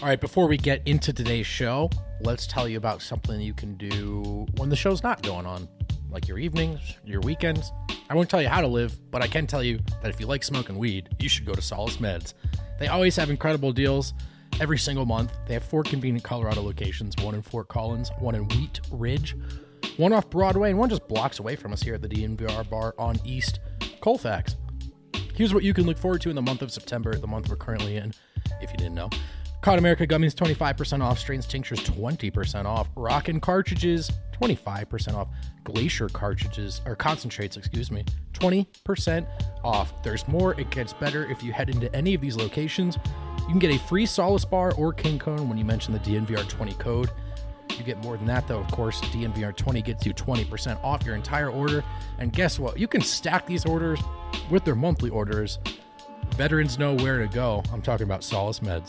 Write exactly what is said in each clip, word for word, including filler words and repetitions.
All right, before we get into today's show, let's tell you about something you can do when the show's not going on, like your evenings, your weekends. I won't tell you how to live, but I can tell you that if you like smoking weed, you should go to Solace Meds. They always have incredible deals every single month. They have four convenient Colorado locations, one in Fort Collins, one in Wheat Ridge, one off Broadway, and one just blocks away from us here at the D N V R bar on East Colfax. Here's what you can look forward to in the month of September, the month we're currently in, if you didn't know. Cod America gummies, twenty-five percent off. Strains tinctures, twenty percent off. Rockin' cartridges, twenty-five percent off. Glacier cartridges, or concentrates, excuse me, twenty percent off. There's more. It gets better if you head into any of these locations. You can get a free Solace bar or King Cone when you mention the D N V R twenty code. You get more than that, though. Of course, D N V R twenty gets you twenty percent off your entire order. And guess what? You can stack these orders with their monthly orders. Veterans know where to go. I'm talking about Solace Meds.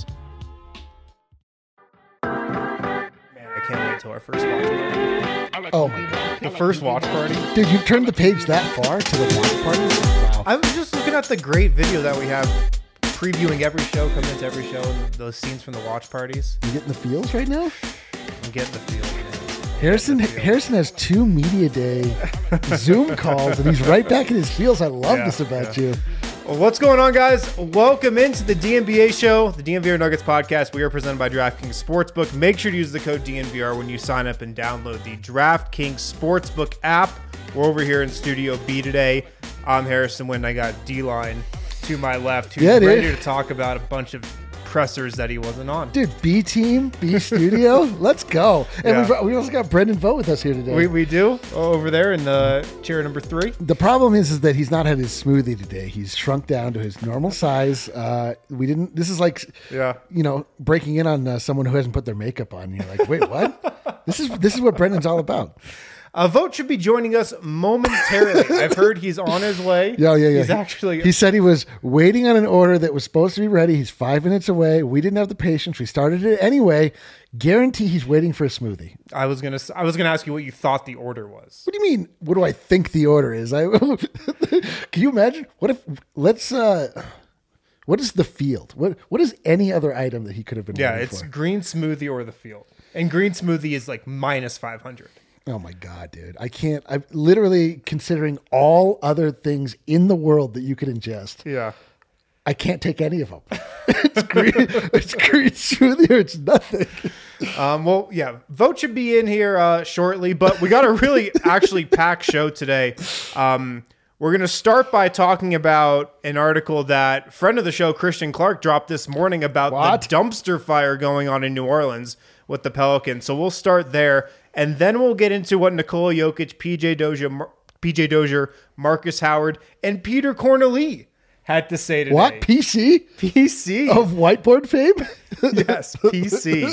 I can't wait till our first watch party. Oh my god. The first watch party? Dude, you've turned the page that far to the watch party? Wow. I was just looking at the great video that we have previewing every show, coming into every show, and those scenes from the watch parties. You getting the feels right now? I'm getting the feel, man. Harrison the feel. Harrison has two media day Zoom calls, and he's right back in his feels. I love Yeah, this about yeah. you. Well, what's going on, guys? Welcome into the D N V R show, the D N V R Nuggets podcast. We are presented by DraftKings Sportsbook. Make sure to use the code D N V R when you sign up and download the DraftKings Sportsbook app. We're over here in Studio B today. I'm Harrison Wind. I got D-Line to my left, who's Yeah, dude. ready to talk about a bunch of pressers that he wasn't on. Dude, B team, B studio, let's go. And Yeah. we've, we also got Brendan Vogt with us here today. We, we do over there in the chair number three. The problem is, is that he's not had his smoothie today. He's shrunk down to his normal size. Uh, we didn't. This is like, Yeah. you know, breaking in on uh, someone who hasn't put their makeup on. You're like, wait, what? this is this is what Brendan's all about. Uh, Vogt should be joining us momentarily. I've heard he's on his way. Yeah, yeah, yeah. He's actually. He said he was waiting on an order that was supposed to be ready. He's five minutes away. We didn't have the patience. We started it anyway. Guarantee he's waiting for a smoothie. I was gonna. I was gonna ask you what you thought the order was. What do you mean? What do I think the order is? I can you imagine? What if let's uh what is the field? What what is any other item that he could have been Yeah, waiting it's for? green smoothie or the field, and green smoothie is like minus five hundred. Oh my god, dude. I can't I'm literally considering all other things in the world that you could ingest. Yeah. I can't take any of them. it's green it's green smoothie or it's nothing. Um, well, yeah, Vogt should be in here uh, shortly, but we got a really actually packed show today. Um, we're going to start by talking about an article that friend of the show, Christian Clark, dropped this morning about What? the dumpster fire going on in New Orleans with the Pelicans. So we'll start there, and then we'll get into what Nikola Jokic, P J Dozier, Mar- P J Dozier, Marcus Howard, and Peter Corneli had to say today. What? P C? P C. Of whiteboard fame? Yes, P C.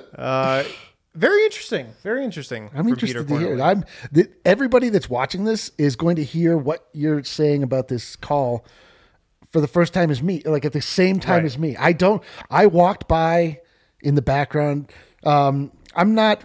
Uh, very interesting. Very interesting. I'm for interested Peter to hear it. Corneli. I'm th- everybody that's watching this is going to hear what you're saying about this call for the first time as me, like at the same time Right. as me. I don't. I walked by in the background. Um, I'm not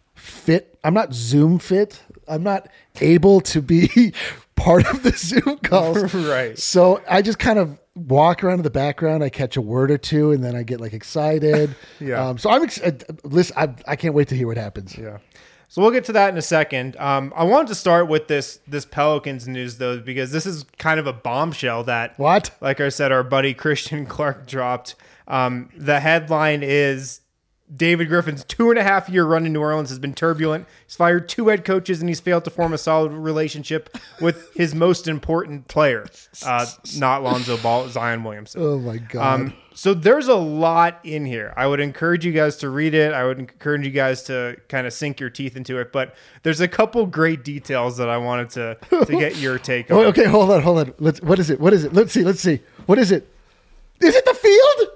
fit. I'm not Zoom fit. I'm not able to be part of the Zoom calls. Right. So I just kind of walk around in the background. I catch a word or two, and then I get like excited. Yeah. Um, so I'm ex- uh, listen. I, I can't wait to hear what happens. Yeah. So we'll get to that in a second. Um, I wanted to start with this this Pelicans news though, because this is kind of a bombshell that, What? like I said, our buddy Christian Clark dropped. Um, the headline is David Griffin's two and a half year run in New Orleans has been turbulent. He's fired two head coaches and he's failed to form a solid relationship with his most important player, uh, not Lonzo Ball, Zion Williamson. Oh my god. Um, so there's a lot in here. I would encourage you guys to read it. I would encourage you guys to kind of sink your teeth into it. But there's a couple great details that I wanted to to get your take on. Oh, okay, hold on, hold on. Let's. What is it? What is it? Let's see. Let's see. What is it? Is it the field?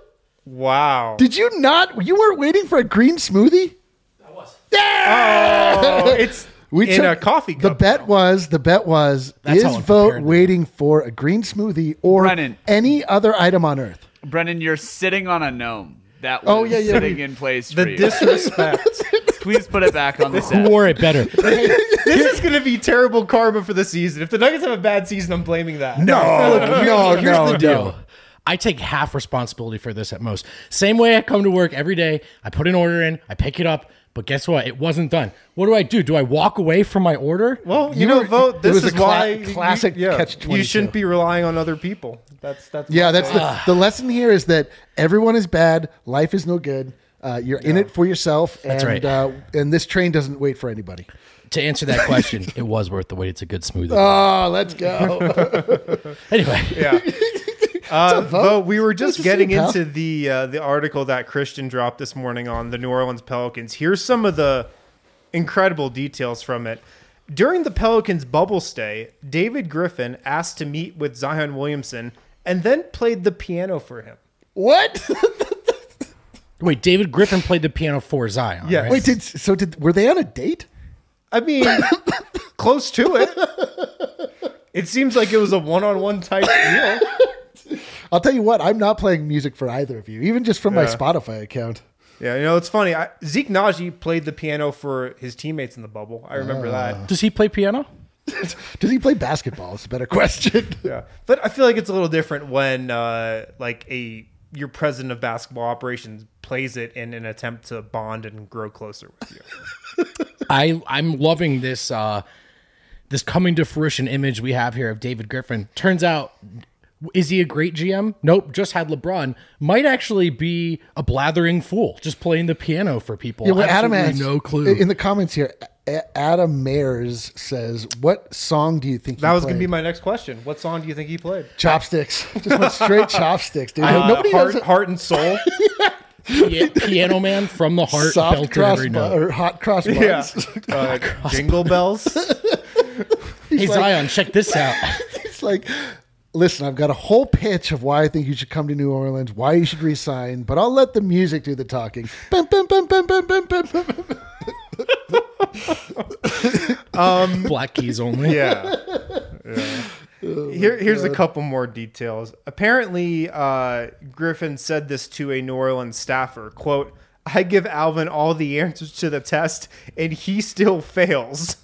Wow. Did you not? You weren't waiting for a green smoothie? I was. Yeah. Oh, it's We in took- a coffee The cup. bet was. The bet was. That's is how I'm Vogt prepared. waiting for a green smoothie or Brennan. any other item on earth? Brendan, you're sitting on a gnome that was Oh, yeah, yeah. sitting in place for The you. disrespect. Please put it back on the Who set. wore it better? This is going to be terrible karma for the season. If the Nuggets have a bad season, I'm blaming that. No, no, Here's no, the deal. no. I take half responsibility for this at most. Same way I come to work every day. I put an order in, I pick it up, but guess what? It wasn't done. What do I do? Do I walk away from my order? Well, you, You know, were- vote. it This was is a cla- why you- classic yeah, catch You twenty-two. shouldn't be relying on other people. That's that's Yeah, my that's thing. the, the lesson here is that everyone is bad. Life is no good. Uh, you're in it for yourself. That's and, right. Uh, and this train doesn't wait for anybody. To answer that question, it was worth the wait. It's a good smoothie. Oh, let's go. Anyway, Yeah. Uh, vote? Bo, we were just Nice to see getting you, pal. into the uh, the article that Christian dropped this morning on the New Orleans Pelicans. Here's some of the incredible details from it. During the Pelicans' bubble stay, David Griffin asked to meet with Zion Williamson and then played the piano for him. What? wait, David Griffin played the piano for Zion. Yes. right? Wait, did so did were they on a date? I mean, close to it. It seems like it was a one-on-one type deal. I'll tell you what, I'm not playing music for either of you, even just from my Yeah. Spotify account. Yeah, you know, it's funny. I, Zeke Naji played the piano for his teammates in the bubble. I remember that. Does he play piano? Does he play basketball? It's a better question. Yeah, but I feel like it's a little different when uh, like a your president of basketball operations plays it in an attempt to bond and grow closer with you. I I'm loving this uh, this coming to fruition image we have here of David Griffin. Turns out, is he a great G M? Nope. Just had LeBron. Might actually be a blathering fool, just playing the piano for people. Yeah, well, Adam Absolutely has no clue. in the comments here. A- Adam Mayers says, "What song do you think That he was going to be played?" my next question. What song do you think he played? Chopsticks. Just went straight chopsticks, dude. Uh, Nobody heart, knows heart and soul. Pi- piano man from the heart, soft belted cross every bu- note. or hot cross Yeah, buns. uh, jingle bells. Hey like- Zion, check this out. It's like, listen, I've got a whole pitch of why I think you should come to New Orleans, why you should resign, but I'll let the music do the talking. Bum, bum, bum, bum, bum, bum, bum, bum. Black keys only. Yeah. Yeah. Here, here's a couple more details. Apparently, uh, Griffin said this to a New Orleans staffer, quote, "I give Alvin all the answers to the test, and he still fails."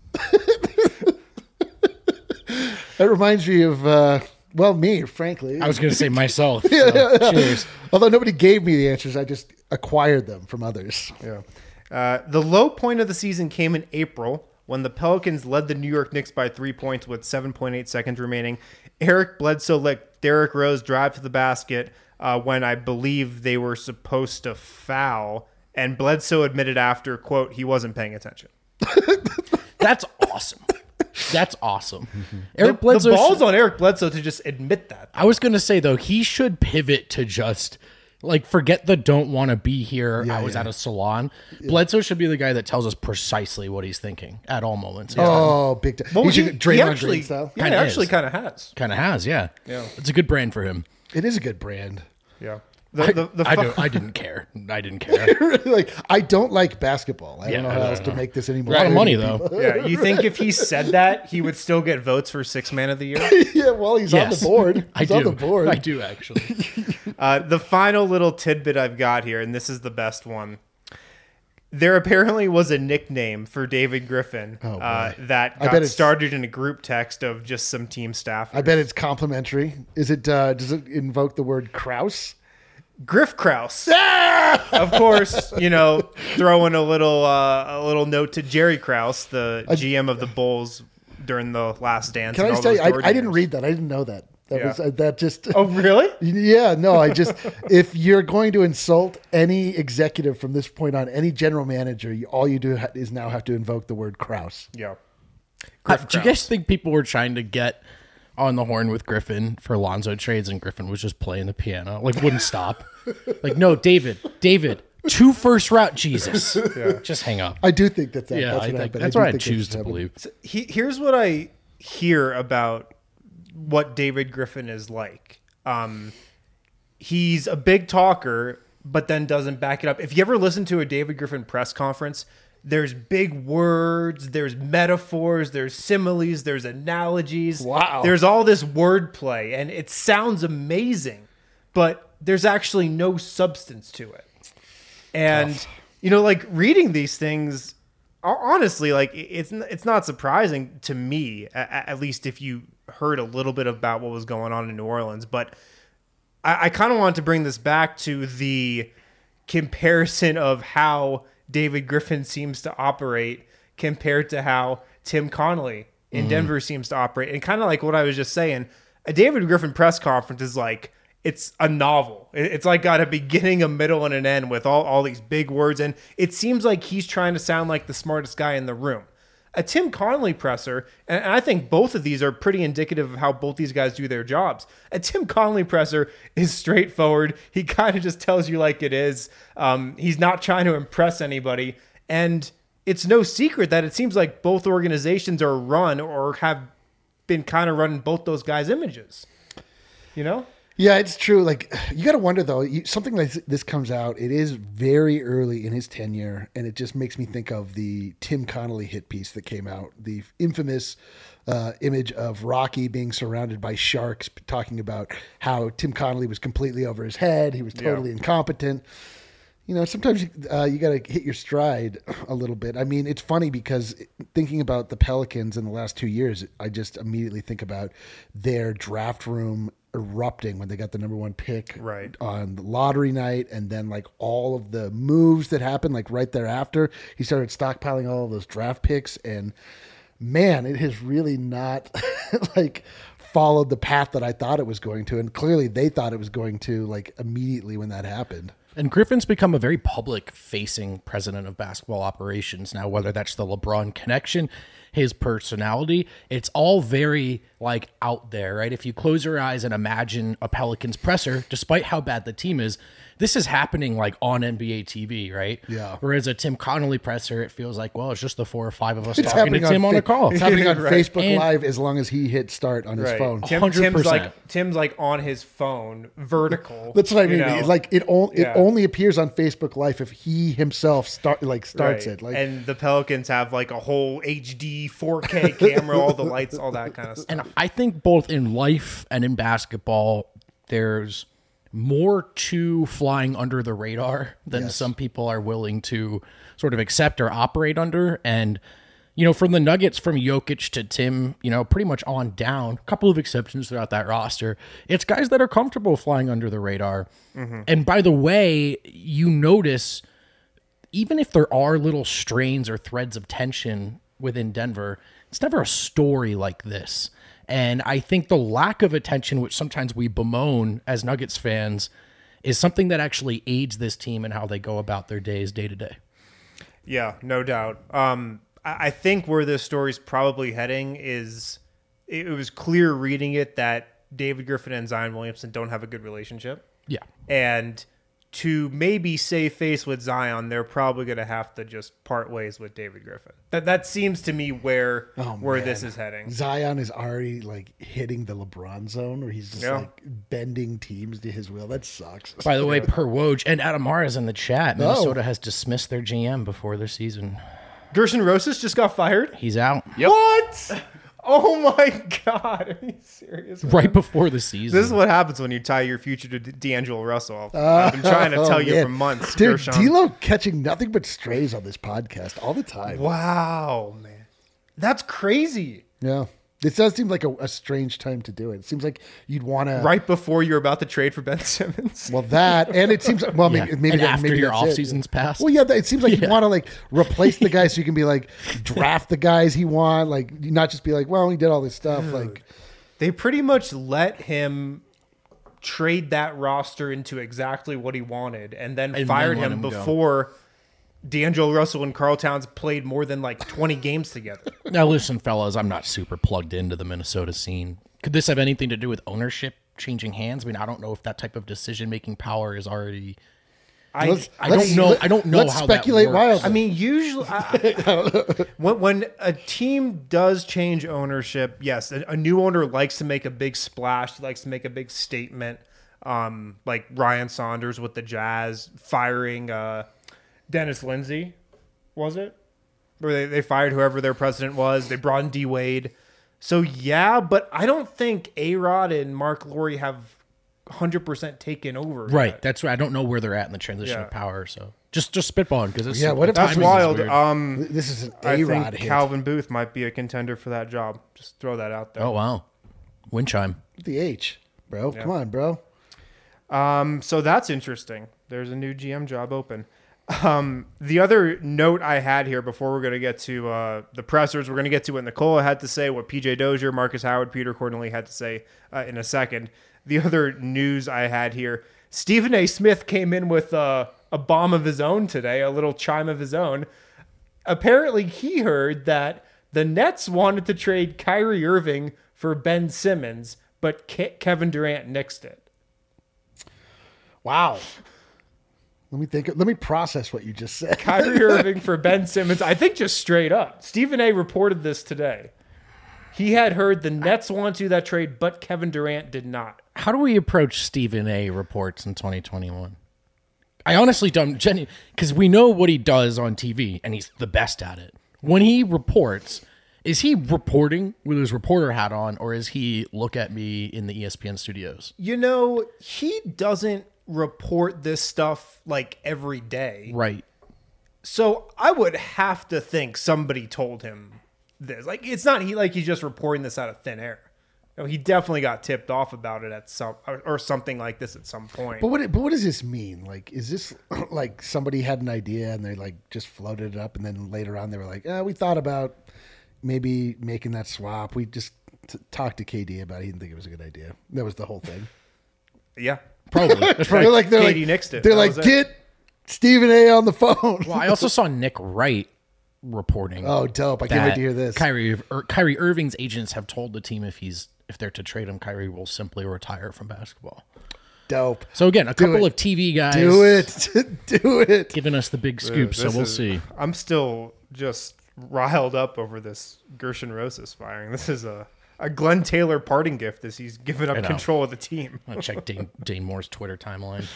That reminds me of, uh, well, me, frankly. I was going to say myself. So, cheers. Although nobody gave me the answers, I just acquired them from others. Yeah. Uh, the low point of the season came in April when the Pelicans led the New York Knicks by three points with seven point eight seconds remaining. Eric Bledsoe let Derrick Rose drive to the basket uh, when I believe they were supposed to foul, and Bledsoe admitted after, quote, he wasn't paying attention. That's awesome. That's awesome. The, Eric Bledsoe. the ball's should- on Eric Bledsoe to just admit that. I was going to say, though, he should pivot to just like forget the don't want to be here. I was yeah. at a salon. Bledsoe should be the guy that tells us precisely what he's thinking at all moments. Oh, big time. Well, he he, should he Draymond actually, Green style. yeah, Kinda he actually is. kind of has. Kind of has, yeah. Yeah. It's a good brand for him. It is a good brand. Yeah. The, the, the I, fu- don't, I didn't care. I didn't care. Like, I don't like basketball. I Yeah, don't know I how don't else to know. make this any A more. lot of clear money, to though. people. yeah, you think if he said that, he would still get votes for six man of the year? Yeah, well, he's Yes. on the board. I He's do. on the board. I do, actually. Uh, the final little tidbit I've got here, and this is the best one. There apparently was a nickname for David Griffin Oh, uh, boy. that I got bet it's- started in a group text of just some team staff. I bet it's complimentary. Is it? Uh, does it invoke the word Kraus? Griff Kraus. Of course, you know, throwing a little uh, a little note to Jerry Krause, the G M of the Bulls during the Last Dance. Can I and just all tell you? those I, I didn't Jordan read that. I didn't know that. That Yeah. was uh, that just. years. Oh, really? Yeah, no, I just if you're going to insult any executive from this point on, any general manager, you, all you do ha- is now have to invoke the word Kraus. Yeah. Uh, do you guys think people were trying to get on the horn with Griffin for Lonzo trades and Griffin was just playing the piano? Like, wouldn't stop. Like, no, David, David, two first route, Jesus. Just hang up. I do think that, that Yeah, that's I what think, happened. that's do what I think choose that's to what happened. believe. He, here's what I hear about what David Griffin is like. Um, he's a big talker, but then doesn't back it up. If you ever listen to a David Griffin press conference, there's big words, there's metaphors, there's similes, there's analogies. Wow. There's all this wordplay, and it sounds amazing, but there's actually no substance to it. And, you know, like reading these things, honestly, like it's it's not surprising to me, at, at least if you heard a little bit about what was going on in New Orleans. But I, I kind of want to bring this back to the comparison of how David Griffin seems to operate compared to how Tim Connolly in mm-hmm. Denver seems to operate. And kind of like what I was just saying, a David Griffin press conference is like, it's a novel. It's like got a beginning, a middle, and an end with all, all these big words. And it seems like he's trying to sound like the smartest guy in the room. A Tim Connolly presser, and I think both of these are pretty indicative of how both these guys do their jobs. A Tim Connolly presser is straightforward. He kind of just tells you like it is. Um, he's not trying to impress anybody. And it's no secret that it seems like both organizations are run or have been kind of running both those guys' images. You know? Yeah, it's true. Like, you got to wonder, though, you, something like this comes out. It is very early in his tenure, and it just makes me think of the Tim Connolly hit piece that came out, the infamous uh, image of Rocky being surrounded by sharks, talking about how Tim Connolly was completely over his head. He was totally yeah. incompetent. You know, sometimes you, uh, you got to hit your stride a little bit. I mean, it's funny because thinking about the Pelicans in the last two years, I just immediately think about their draft room erupting when they got the number one pick right. on the lottery night, and then like all of the moves that happened like right thereafter. He started stockpiling all of those draft picks, and man, it has really not like followed the path that I thought it was going to, and clearly they thought it was going to, like, immediately when that happened. And Griffin's become a very public-facing president of basketball operations now, whether that's the LeBron connection, his personality. It's all very, like, out there, right? If you close your eyes and imagine a Pelicans presser, despite how bad the team is, this is happening, like, on N B A T V, right? Yeah. Whereas a Tim Connolly presser, it feels like, well, it's just the four or five of us it's talking to Tim on, on a call. It's happening on right. Facebook and, Live as long as he hits start on his right. phone. Tim, Tim's like Tim's like on his phone, vertical. That's what I mean. You know? Like it, o- it yeah. only appears on Facebook Live if he himself start like starts right. it. Like, and the Pelicans have like a whole H D four K camera, all the lights, all that kind of stuff. And I think both in life and in basketball, there's more to flying under the radar than yes. some people are willing to sort of accept or operate under. And, you know, from the Nuggets, from Jokic to Tim, you know, pretty much on down, a couple of exceptions throughout that roster, it's guys that are comfortable flying under the radar. Mm-hmm. And by the way, you notice, even if there are little strains or threads of tension within Denver, it's never a story like this. And I think the lack of attention, which sometimes we bemoan as Nuggets fans, is something that actually aids this team in how they go about their days day to day. Yeah, no doubt. Um, I, I think where this story's probably heading is it, it was clear reading it that David Griffin and Zion Williamson don't have a good relationship. Yeah. And to maybe save face with Zion, they're probably going to have to just part ways with David Griffin. That that seems to me where oh, where man. this is heading. Zion is already like hitting the LeBron zone, where he's just yeah. like bending teams to his will. That sucks. By the way, per Woj and Adam Mara's in the chat, Minnesota oh. has dismissed their G M before their season. Gerson Rosas just got fired? He's out. Yep. What? Oh my God! Are you serious? Man? Right before the season. This is what happens when you tie your future to D- D'Angelo Russell. Uh, I've been trying to tell oh, you man. for months. Dude, Gershon. D'Lo catching nothing but strays on this podcast all the time. Wow, man, that's crazy. Yeah, this does seem like a, a strange time to do it. It seems like you'd want to right before you're about to trade for Ben Simmons. Well, that and it seems well yeah. maybe maybe, and that, after maybe your off it. season's passed. Well, yeah, it seems like yeah. you want to like replace the guys so you can be like draft the guys he want, like not just be like, well, he did all this stuff. Dude. Like they pretty much let him trade that roster into exactly what he wanted, and then and fired then him, him before D'Angelo Russell and Karl Towns played more than like twenty games together. Now, listen, fellas, I'm not super plugged into the Minnesota scene. Could this have anything to do with ownership changing hands? I mean, I don't know if that type of decision-making power is already. I, let's, I don't let's, know. I don't know let's how speculate that works. wildly. I mean, usually I, when when a team does change ownership, yes, a, a new owner likes to make a big splash, likes to make a big statement. Um, like Ryan Saunders with the Jazz firing uh, Dennis Lindsey, was it? Where they, they fired whoever their president was. They brought in D Wade. So yeah, but I don't think A-Rod and Mark Lowry have one hundred percent taken over. Right. Yet. That's right. I don't know where they're at in the transition Yeah. of power. So just just spitballing because it's Yeah, what if That's timing is wild. weird. Um, this is an I A-Rod think hit. Calvin Booth might be a contender for that job. Just throw that out there. Oh wow, wind chime. The H, bro. Come on, bro. Um, so that's interesting. There's a new G M job open. Um, the other note I had here before we're going to get to uh, the pressers, we're going to get to what Nicola had to say, what P J Dozier, Marcus Howard, Peter Corneli had to say uh, in a second. The other news I had here, Stephen A. Smith came in with uh, a bomb of his own today, a little chime of his own. Apparently he heard that the Nets wanted to trade Kyrie Irving for Ben Simmons, but Ke- Kevin Durant nixed it. Wow. Let me think. Let me process what you just said. Kyrie Irving for Ben Simmons. I think just straight up. Stephen A. reported this today. He had heard the Nets want to do that trade, but Kevin Durant did not. How do we approach Stephen A. reports in twenty twenty-one? I honestly don't, Jenny, because we know what he does on T V, and he's the best at it. When he reports, is he reporting with his reporter hat on, or is he look at me in the E S P N studios? You know, he doesn't report this stuff like every day. Right. So I would have to think somebody told him this. Like, it's not he like he's just reporting this out of thin air. No, he definitely got tipped off about it at some or, or something like this at some point. But what? But what does this mean? Like, is this like somebody had an idea and they like just floated it up, and then later on they were like, eh, we thought about maybe making that swap. We just t- talked to K D about it. He didn't think it was a good idea. That was the whole thing. Yeah, Probably. That's They're right. like, they're Katie like, nixed it. They're That like, was it. get Stephen A. on the phone. Well, I also saw Nick Wright reporting. Oh, dope! I can't wait to hear this. Kyrie, or Kyrie Irving's agents have told the team if he's if they're to trade him, Kyrie will simply retire from basketball. Dope. So again, a Do couple it. of T V guys Do it. Do it. giving us the big scoop. So This we'll is- see. I'm still just riled up over this Gershon Rosas firing. This is a, a Glenn Taylor parting gift as he's given I up know. control of the team. I'll check Dane, Dane Moore's Twitter timeline.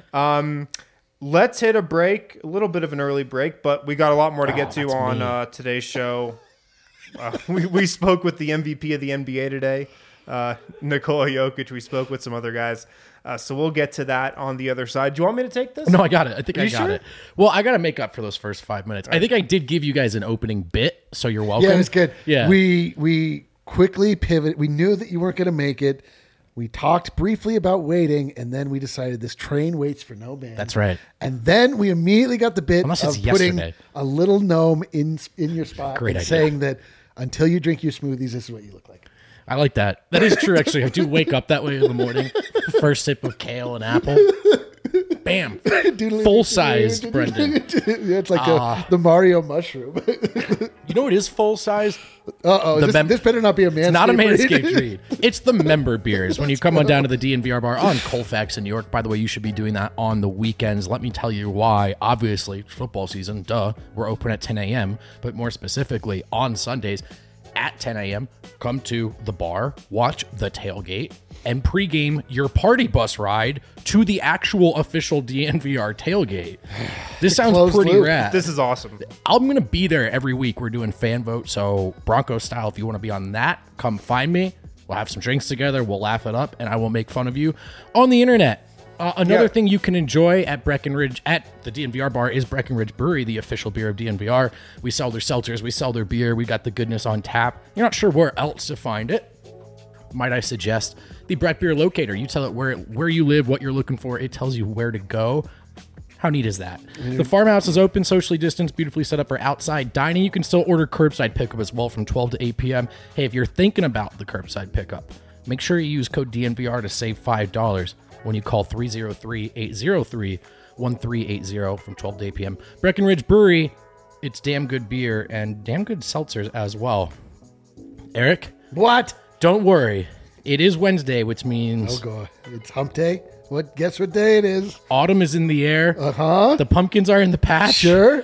Let's hit a break, a little bit of an early break, but we got a lot more to get Oh, to that's on me. uh, today's show. Uh, we, we spoke with the M V P of the N B A today, uh, Nikola Jokic. We spoke with some other guys. Uh, so we'll get to that on the other side. Do you want me to take this? No, I got it. I think Are I you got sure? it. Well, I got to make up for those first five minutes. I think I did give you guys an opening bit, so you're welcome. Yeah, it was good. Yeah. We we quickly pivot. We knew that you weren't going to make it. We talked briefly about waiting, and then we decided this train waits for no man. That's right. And then we immediately got the bit Unless of it's putting yesterday. a little gnome in in your spot Great and idea. saying that until you drink your smoothies, this is what you look like. I like that. That is true, actually. I do wake up that way in the morning. First sip of kale and apple. Bam. Full-sized Brendan. Yeah, it's like Ah. a, the Mario mushroom. You know what is full-size? Uh-oh. The This, mem- this better not be a Manscaped It's not a read. Manscaped read. It's the member beers. When you come on down to the D N V R bar on Colfax in New York, by the way, you should be doing that on the weekends. Let me tell you why. Obviously, it's football season, duh. We're open at ten a.m., but more specifically on Sundays at ten a.m., come to the bar, watch the tailgate, and pregame your party bus ride to the actual official D N V R tailgate. This sounds closed pretty loop. rad. This is awesome. I'm going to be there every week. We're doing fan vote. So Broncos style, if you want to be on that, come find me. We'll have some drinks together. We'll laugh it up, and I will make fun of you on the internet. Uh, another Yeah. thing you can enjoy at Breckenridge, at the D N V R bar, is Breckenridge Brewery, the official beer of D N V R. We sell their seltzers. We sell their beer. We got the goodness on tap. You're not sure where else to find it. Might I suggest the Breck Beer Locator? You tell it where where you live, what you're looking for. It tells you where to go. How neat is that? The farmhouse is open, socially distanced, beautifully set up for outside dining. You can still order curbside pickup as well from twelve to eight p.m. Hey, if you're thinking about the curbside pickup, make sure you use code D N V R to save five dollars when you call three oh three, eight oh three, one three eight zero from twelve to eight p.m. Breckenridge Brewery, it's damn good beer and damn good seltzers as well. Eric, What? don't worry. It is Wednesday, which means Oh, God. It's hump day. What? Guess what day it is? autumn is in the air. Uh-huh. The pumpkins are in the patch. Sure.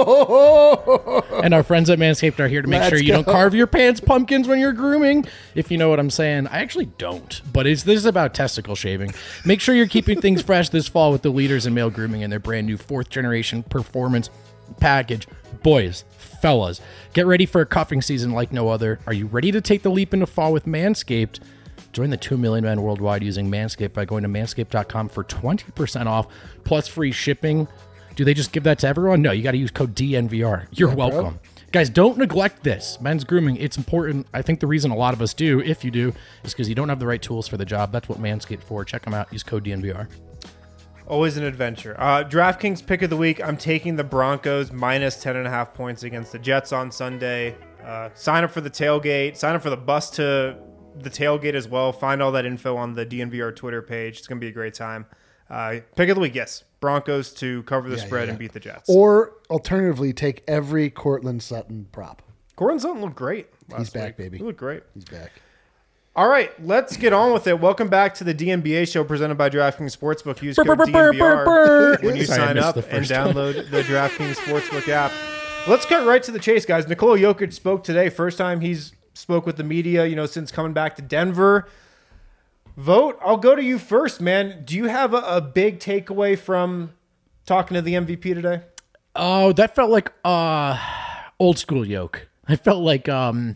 Oh, And our friends at Manscaped are here to make Let's sure you don't go. carve your pants pumpkins when you're grooming. If you know what I'm saying. I actually don't, but it's this is about testicle shaving. Make sure you're keeping things fresh this fall with the leaders in male grooming and their brand new fourth generation performance package. Boys, fellas, get ready for a cuffing season like no other. Are you ready to take the leap into fall with Manscaped? Join the two million men worldwide using Manscaped by going to manscaped dot com for twenty percent off plus free shipping. Do they just give that to everyone? No, you got to use code D N V R. You're welcome. Guys, don't neglect this. Men's grooming, it's important. I think the reason a lot of us do, if you do, is because you don't have the right tools for the job. That's what Manscaped for. Check them out. Use code D N V R. Always an adventure. Uh, DraftKings pick of the week. I'm taking the Broncos minus ten and a half points against the Jets on Sunday. Uh, sign up for the tailgate. Sign up for the bus to the tailgate as well. Find all that info on the D N V R Twitter page. It's going to be a great time. Uh, pick of the week, yes. Broncos to cover the Yeah, spread yeah, yeah. and beat the Jets. Or alternatively, take every Cortland Sutton prop. Courtland Sutton looked great last He's back, week. baby. He looked great. He's back. All right, let's get on with it. Welcome back to the D N B A show presented by DraftKings Sportsbook. Use code D N V R when you Sorry, I sign missed up the and first one. download the DraftKings Sportsbook app. Let's cut right to the chase, guys. Nikola Jokic spoke today. First time he's spoke with the media, you know, since coming back to Denver. Vote, I'll go to you first, man. Do you have a, a big takeaway from talking to the M V P today? Oh, that felt like uh, old school yoke. I felt like um,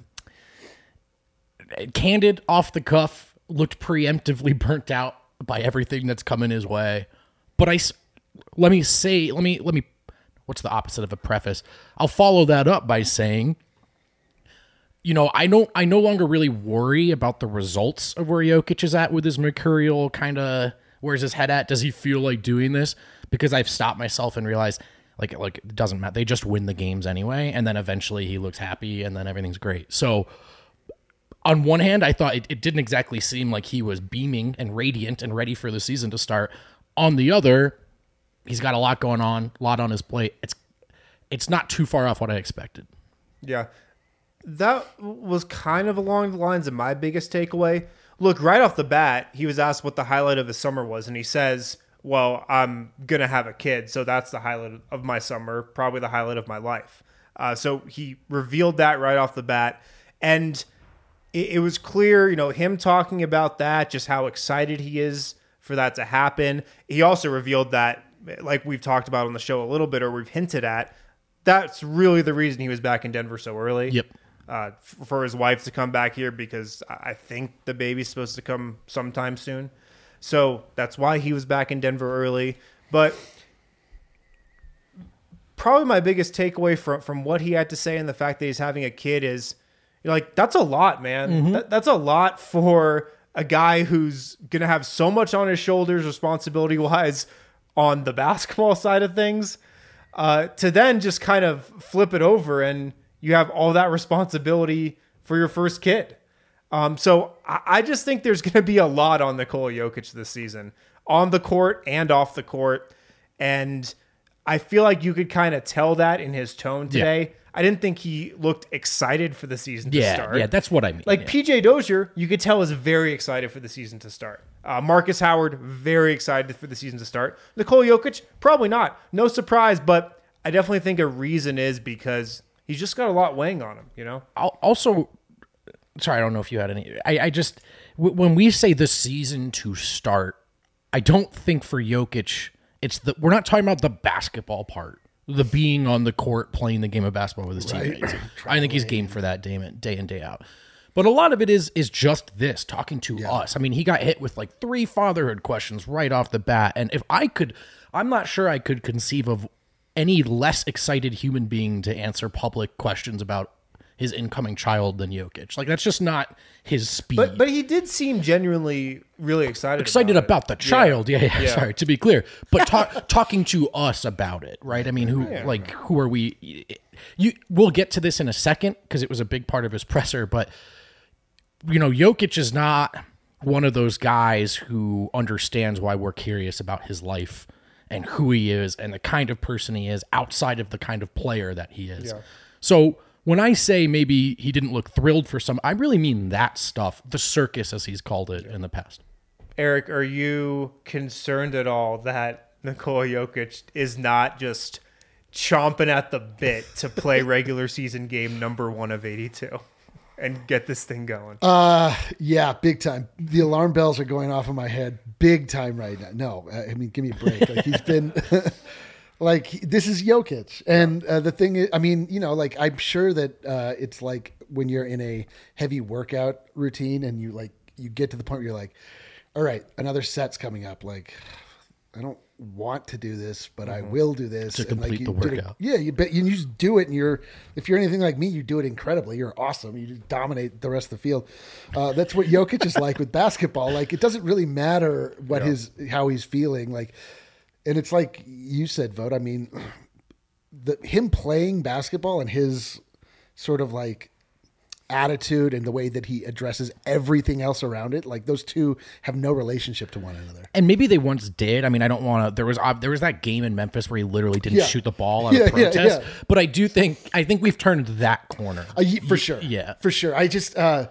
candid, off the cuff, looked preemptively burnt out by everything that's coming his way. But I, s- let me say, let me, let me, what's the opposite of a preface? I'll follow that up by saying, you know, I don't, I no longer really worry about the results of where Jokic is at with his mercurial kind of, where's his head at? Does he feel like doing this? Because I've stopped myself and realized, like, like it doesn't matter. They just win the games anyway, and then eventually he looks happy, and then everything's great. So, on one hand, I thought it, it didn't exactly seem like he was beaming and radiant and ready for the season to start. On the other, he's got a lot going on, a lot on his plate. It's it's not too far off what I expected. Yeah. That was kind of along the lines of my biggest takeaway. Look, right off the bat, he was asked what the highlight of his summer was, and he says, well, I'm going to have a kid, so that's the highlight of my summer, probably the highlight of my life. Uh, so he revealed that right off the bat, and it, it was clear, you know, him talking about that, just how excited he is for that to happen. He also revealed that, like we've talked about on the show a little bit, or we've hinted at, that's really the reason he was back in Denver so early. Yep. Uh, f- for his wife to come back here because I I think the baby's supposed to come sometime soon. So that's why he was back in Denver early. But probably my biggest takeaway from, from what he had to say and the fact that he's having a kid is, you're like, that's a lot, man. That, that's a lot for a guy who's going to have so much on his shoulders responsibility-wise on the basketball side of things, uh, to then just kind of flip it over and you have all that responsibility for your first kid. Um, so I, I just think there's going to be a lot on Nikola Jokic this season, on the court and off the court. And I feel like you could kind of tell that in his tone today. Yeah. I didn't think he looked excited for the season to Yeah, start. yeah, that's what I mean. Like yeah. P J Dozier, you could tell is very excited for the season to start. Uh, Marcus Howard, very excited for the season to start. Nikola Jokic, probably not. No surprise, but I definitely think a reason is because he's just got a lot weighing on him, you know? I'll also, sorry, I don't know if you had any. I, I just, w- when we say the season to start, I don't think for Jokic, it's the, we're not talking about the basketball part, the being on the court, playing the game of basketball with his teammates. I think he's game for that day in, day in, day out. But a lot of it is is just this, talking to us. I mean, he got hit with like three fatherhood questions right off the bat. And if I could, I'm not sure I could conceive of any less excited human being to answer public questions about his incoming child than Jokic. Like, that's just not his speed. But but he did seem genuinely really excited excited about, about, it. the child. Yeah, yeah, Yeah. sorry, to be clear. But talk, talking to us about it, right? I mean, who like who are we? You we'll get to this in a second because it was a big part of his presser, but you know, Jokic is not one of those guys who understands why we're curious about his life and who he is and the kind of person he is outside of the kind of player that he is. Yeah. So when I say maybe he didn't look thrilled for some, I really mean that stuff, the circus as he's called it in the past. Eric, are you concerned at all that Nikola Jokic is not just chomping at the bit to play regular season game number one of eighty-two and get this thing going? Uh, yeah, big time. The alarm bells are going off in my head big time right now. No, I mean, give me a break. Like he's been like, this is Jokic. And uh, the thing is, I mean, you know, like I'm sure that uh, it's like when you're in a heavy workout routine and you like, you get to the point where you're like, all right, another set's coming up. Like, I don't want to do this, but I will do this To and complete you the did it- workout. yeah, you bet you just do it, and you're if you're anything like me, you do it incredibly. You're awesome. You just dominate the rest of the field. Uh, that's what Jokic is like with basketball. Like it doesn't really matter what Yeah. his how he's feeling. Like, and it's like you said, Vote. I mean, the him playing basketball and his sort of like attitude and the way that he addresses everything else around it, like those two have no relationship to one another. And maybe they once did. I mean, I don't want to. There was ob- there was that game in Memphis where he literally didn't Yeah. shoot the ball out Yeah, of yeah, protest. yeah. But I do think I think we've turned that corner. Uh, ye- for sure. yeah. For sure. I just, uh,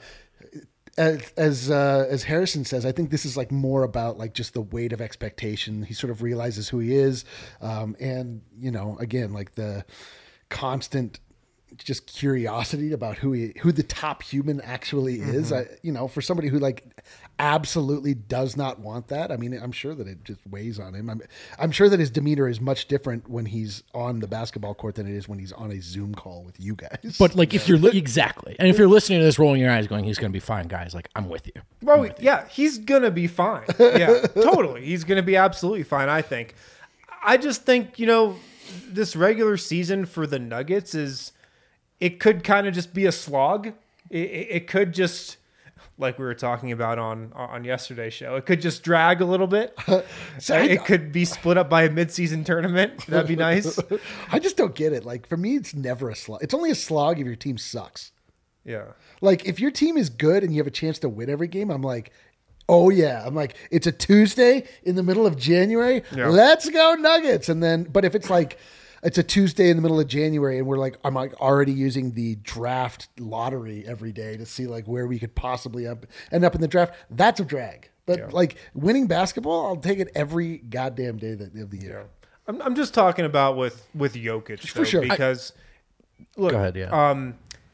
as as, uh, as Harrison says, I think this is like more about like just the weight of expectation. He sort of realizes who he is. Um, and, you know, again, like the constant just curiosity about who he, who the top human actually is. I, you know, for somebody who like absolutely does not want that. I mean, I'm sure that it just weighs on him. I'm, I'm sure that his demeanor is much different when he's on the basketball court than it is when he's on a Zoom call with you guys. But like if you're li- exactly, and if you're listening to this, rolling your eyes, going, "He's going to be fine, guys." Like I'm with you. Well, yeah, he's gonna be fine. Yeah, totally. He's gonna be absolutely fine. I think. I just think you know this regular season for the Nuggets is it could kind of just be a slog. It, it, it could just like we were talking about on on yesterday's show. It could just drag a little bit. So I- It could be split up by a midseason tournament. That'd be nice. I just don't get it. Like for me, it's never a slog. It's only a slog if your team sucks. Yeah. Like if your team is good and you have a chance to win every game, I'm like, oh yeah. I'm like, it's a Tuesday in the middle of January. Yeah. Let's go Nuggets. And then, but if it's like, it's a Tuesday in the middle of January and we're like, I'm like already using the draft lottery every day to see like where we could possibly up, end up in the draft. That's a drag. But Yeah. like winning basketball, I'll take it every goddamn day that, of the year. I'm I'm just talking about with with Jokic For though, sure. I- because look, Go ahead, yeah. um,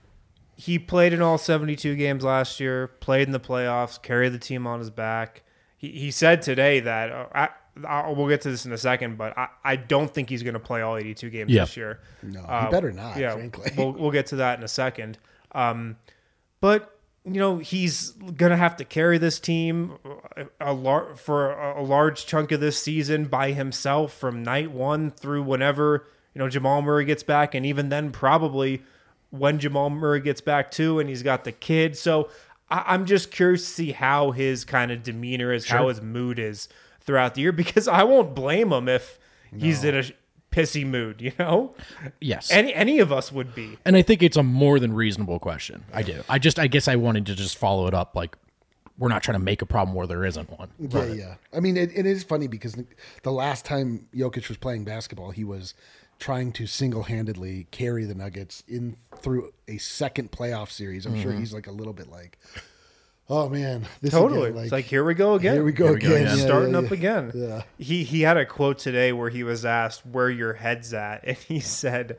he played in all seventy-two games last year, played in the playoffs, carried the team on his back. He he said today that uh, I, I we'll get to this in a second, but I, I don't think he's going to play all eighty-two games Yeah. this year. No, he Uh, better not, yeah, frankly. we'll we'll get to that in a second. Um, but you know he's going to have to carry this team a, a lar- for a, a large chunk of this season by himself from night one through whenever you know Jamal Murray gets back, and even then probably when Jamal Murray gets back too, and he's got the kid. So I, I'm just curious to see how his kind of demeanor is, how his mood is throughout the year, because I won't blame him if he's in a pissy mood, you know? Yes. Any any of us would be. And I think it's a more than reasonable question. I do. I just, I guess I wanted to just follow it up. Like, we're not trying to make a problem where there isn't one. Yeah, yeah. I mean, it, it is funny because the last time Jokic was playing basketball, he was trying to single-handedly carry the Nuggets in through a second playoff series. I'm sure he's like a little bit like, oh man, this Totally. again, it's like, here we go again. here we go Here we go again, again. Yeah, Starting yeah, up yeah. again. Yeah. He he had a quote today where he was asked where your head's at, and he said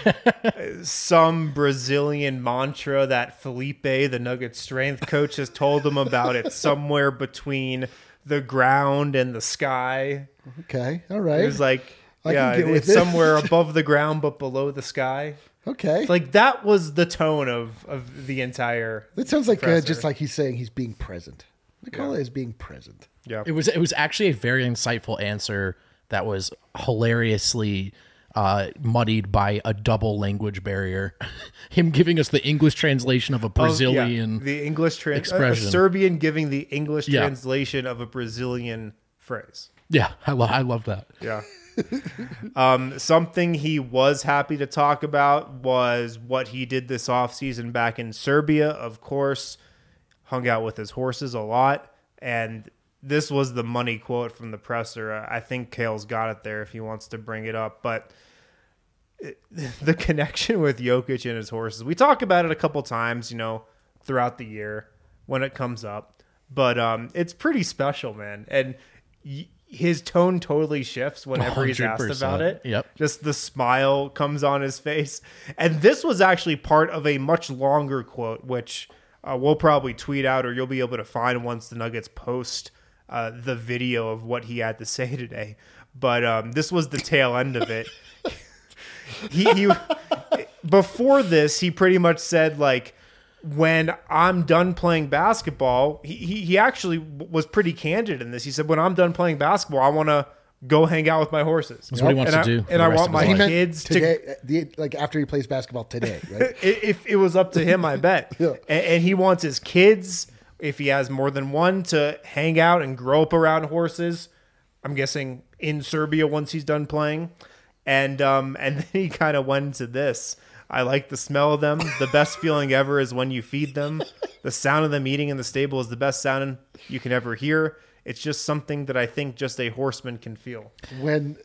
some Brazilian mantra that Felipe, the Nuggets strength coach, has told him about. It somewhere between the ground and the sky. Okay, all right. It was like, I can yeah, get with it's it. somewhere above the ground but below the sky. Okay, Like that was the tone of of the entire. that sounds like uh, presser. just like he's saying he's being present. I call Yeah. it as being present. Yeah. It was, it was actually a very insightful answer that was hilariously uh, muddied by a double language barrier. Him giving us the English translation of a Of- yeah, Brazilian. the English trans- a- a expression. Serbian giving the English Yeah. translation of a Brazilian phrase. Yeah, I, lo- I love that. Yeah. um, something he was happy to talk about was what he did this offseason back in Serbia, of course. Hung out with his horses a lot. And this was the money quote from the presser. I think Kale's got it there if he wants to bring it up. But it, the connection with Jokic and his horses, we talk about it a couple times, you know, throughout the year when it comes up. But um, it's pretty special, man. And y- his tone totally shifts whenever he's asked one hundred about percent. it. Yep. Just the smile comes on his face. And this was actually part of a much longer quote, which uh, we'll probably tweet out or you'll be able to find once the Nuggets post uh, the video of what he had to say today. But um, this was the tail end of it. he, he before this, he pretty much said, like, when I'm done playing basketball, he, he, he actually was pretty candid in this. He said, when I'm done playing basketball, I want to go hang out with my horses. That's what he wants and to I, do for And the I rest want of my his life. meant kids to today, the, like after he plays basketball today, right? if it was up to him, I bet. Yeah. and, and he wants his kids, if he has more than one, to hang out and grow up around horses. I'm guessing in Serbia once he's done playing. And um, and then he kind of went into this. I like the smell of them. The best feeling ever is when you feed them. The sound of them eating in the stable is the best sound you can ever hear. It's just something that I think just a horseman can feel. When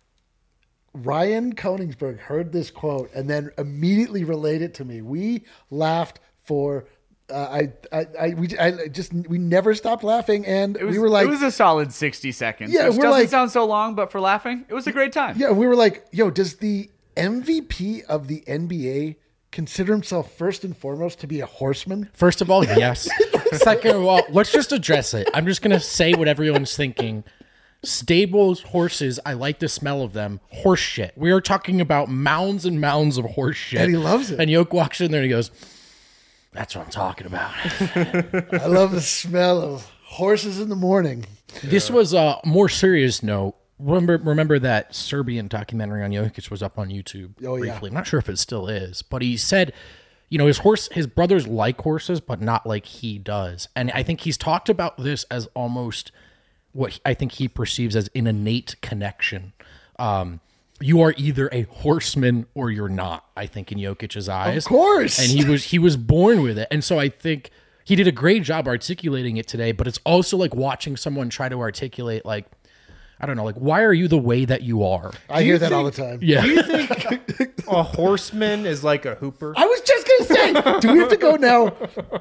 Ryan Koenigsberg heard this quote and then immediately relayed it to me, we laughed for uh, I, I I we I just we never stopped laughing, and It was, we were like, it was a solid sixty seconds. Yeah, which we're doesn't like- sound so long, but for laughing, it was a great time. yeah, we were like, yo, does the M V P of the N B A consider himself first and foremost to be a horseman? First of all, yes. Second of all, let's just address it. I'm just going to say what everyone's thinking. Stables, horses, I like the smell of them. Horse shit. We are talking about mounds and mounds of horse shit. And he loves it. And Yoke walks in there and he goes, that's what I'm talking about. I love the smell of horses in the morning. This was a more serious note. Remember, remember that Serbian documentary on Jokic was up on YouTube Oh, yeah. briefly. I'm not sure if it still is, but he said, you know, his horse, his brothers like horses, but not like he does. And I think he's talked about this as almost what I think he perceives as an innate connection. Um, you are either a horseman or you're not, I think, in Jokic's eyes. Of course. And he was he was born with it. And so I think he did a great job articulating it today, but it's also like watching someone try to articulate, like, I don't know, like, why are you the way that you are? I hear that all the time. Yeah. Do you think a horseman is like a hooper? I was just gonna say, do we have to go now?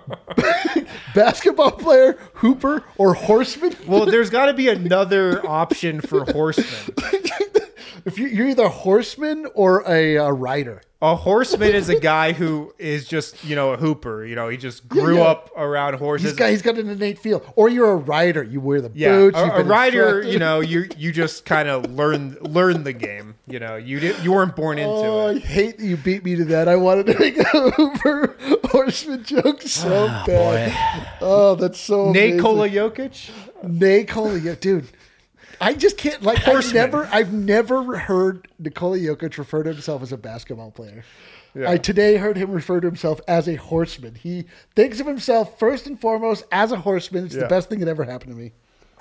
Basketball player, hooper, or horseman? Well, there's got to be another option for horsemen. If you, you're either a horseman or a, uh rider. A horseman is a guy who is just, you know, a hooper. You know, he just grew Yeah, yeah. up around horses. He's got, he's got an innate feel. Or you're a rider. You wear the yeah, boots. a, you've a been rider. instructed. You know, you you just kind of learn learn the game. You know, you did you weren't born into Oh, I it. hate that you beat me to that. I wanted to make a hooper horseman joke so bad. Oh, that's so amazing. Nikola Jokic. Nikola, yeah, dude. I just can't like. I've Horseman. never, I've never heard Nikola Jokic refer to himself as a basketball player. I today heard him refer to himself as a horseman. He thinks of himself first and foremost as a horseman. It's Yeah. the best thing that ever happened to me.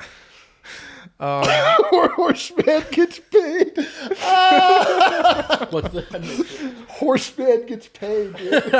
Um, or horseman gets paid. What's the- Horseman gets paid. Dude.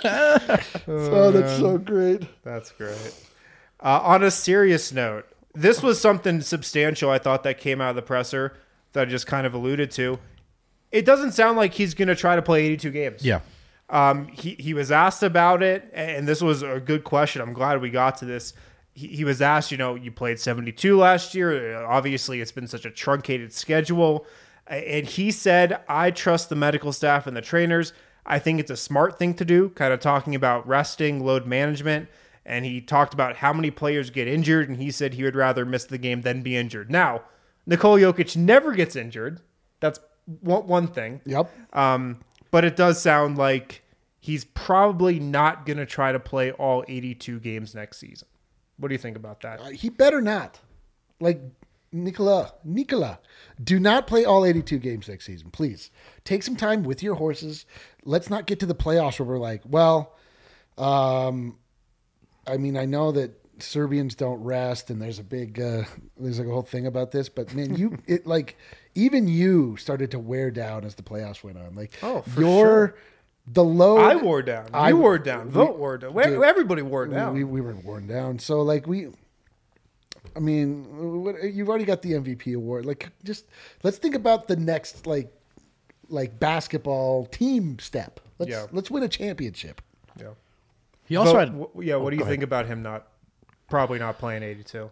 oh, that's so great. That's great. Uh, on a serious note, this was something substantial I thought that came out of the presser that I just kind of alluded to. It doesn't sound like he's going to try to play eighty-two games. yeah. Um, he, he was asked about it, and this was a good question. I'm glad we got to this. He, he was asked, you know, you played seventy-two last year. Obviously, it's been such a truncated schedule. And he said, I trust the medical staff and the trainers. I think it's a smart thing to do, kind of talking about resting, load management. And he talked about how many players get injured, and he said he would rather miss the game than be injured. Now, Nikola Jokic never gets injured. That's one, one thing. Yep. Um, but it does sound like he's probably not going to try to play all eighty-two games next season. What do you think about that? Uh, he better not. Like Nikola, Nikola, do not play all eighty-two games next season, please. Take some time with your horses. Let's not get to the playoffs where we're like, well, um, I mean, I know that Serbians don't rest, and there's a big, uh, there's like a whole thing about this, but man, you, it like, even you started to wear down as the playoffs went on. Like, Oh, for your, sure. the load. I wore down. I- you wore down. we- Vote wore down. dude, Everybody wore we, down. we, we were worn down. So like we, I mean, what, you've already got the M V P award. Like, just let's think about the next like, like basketball team step. Let's Yeah. let's win a championship. yeah. He also Vote- had w- yeah. What do you think about him not probably not playing eighty-two?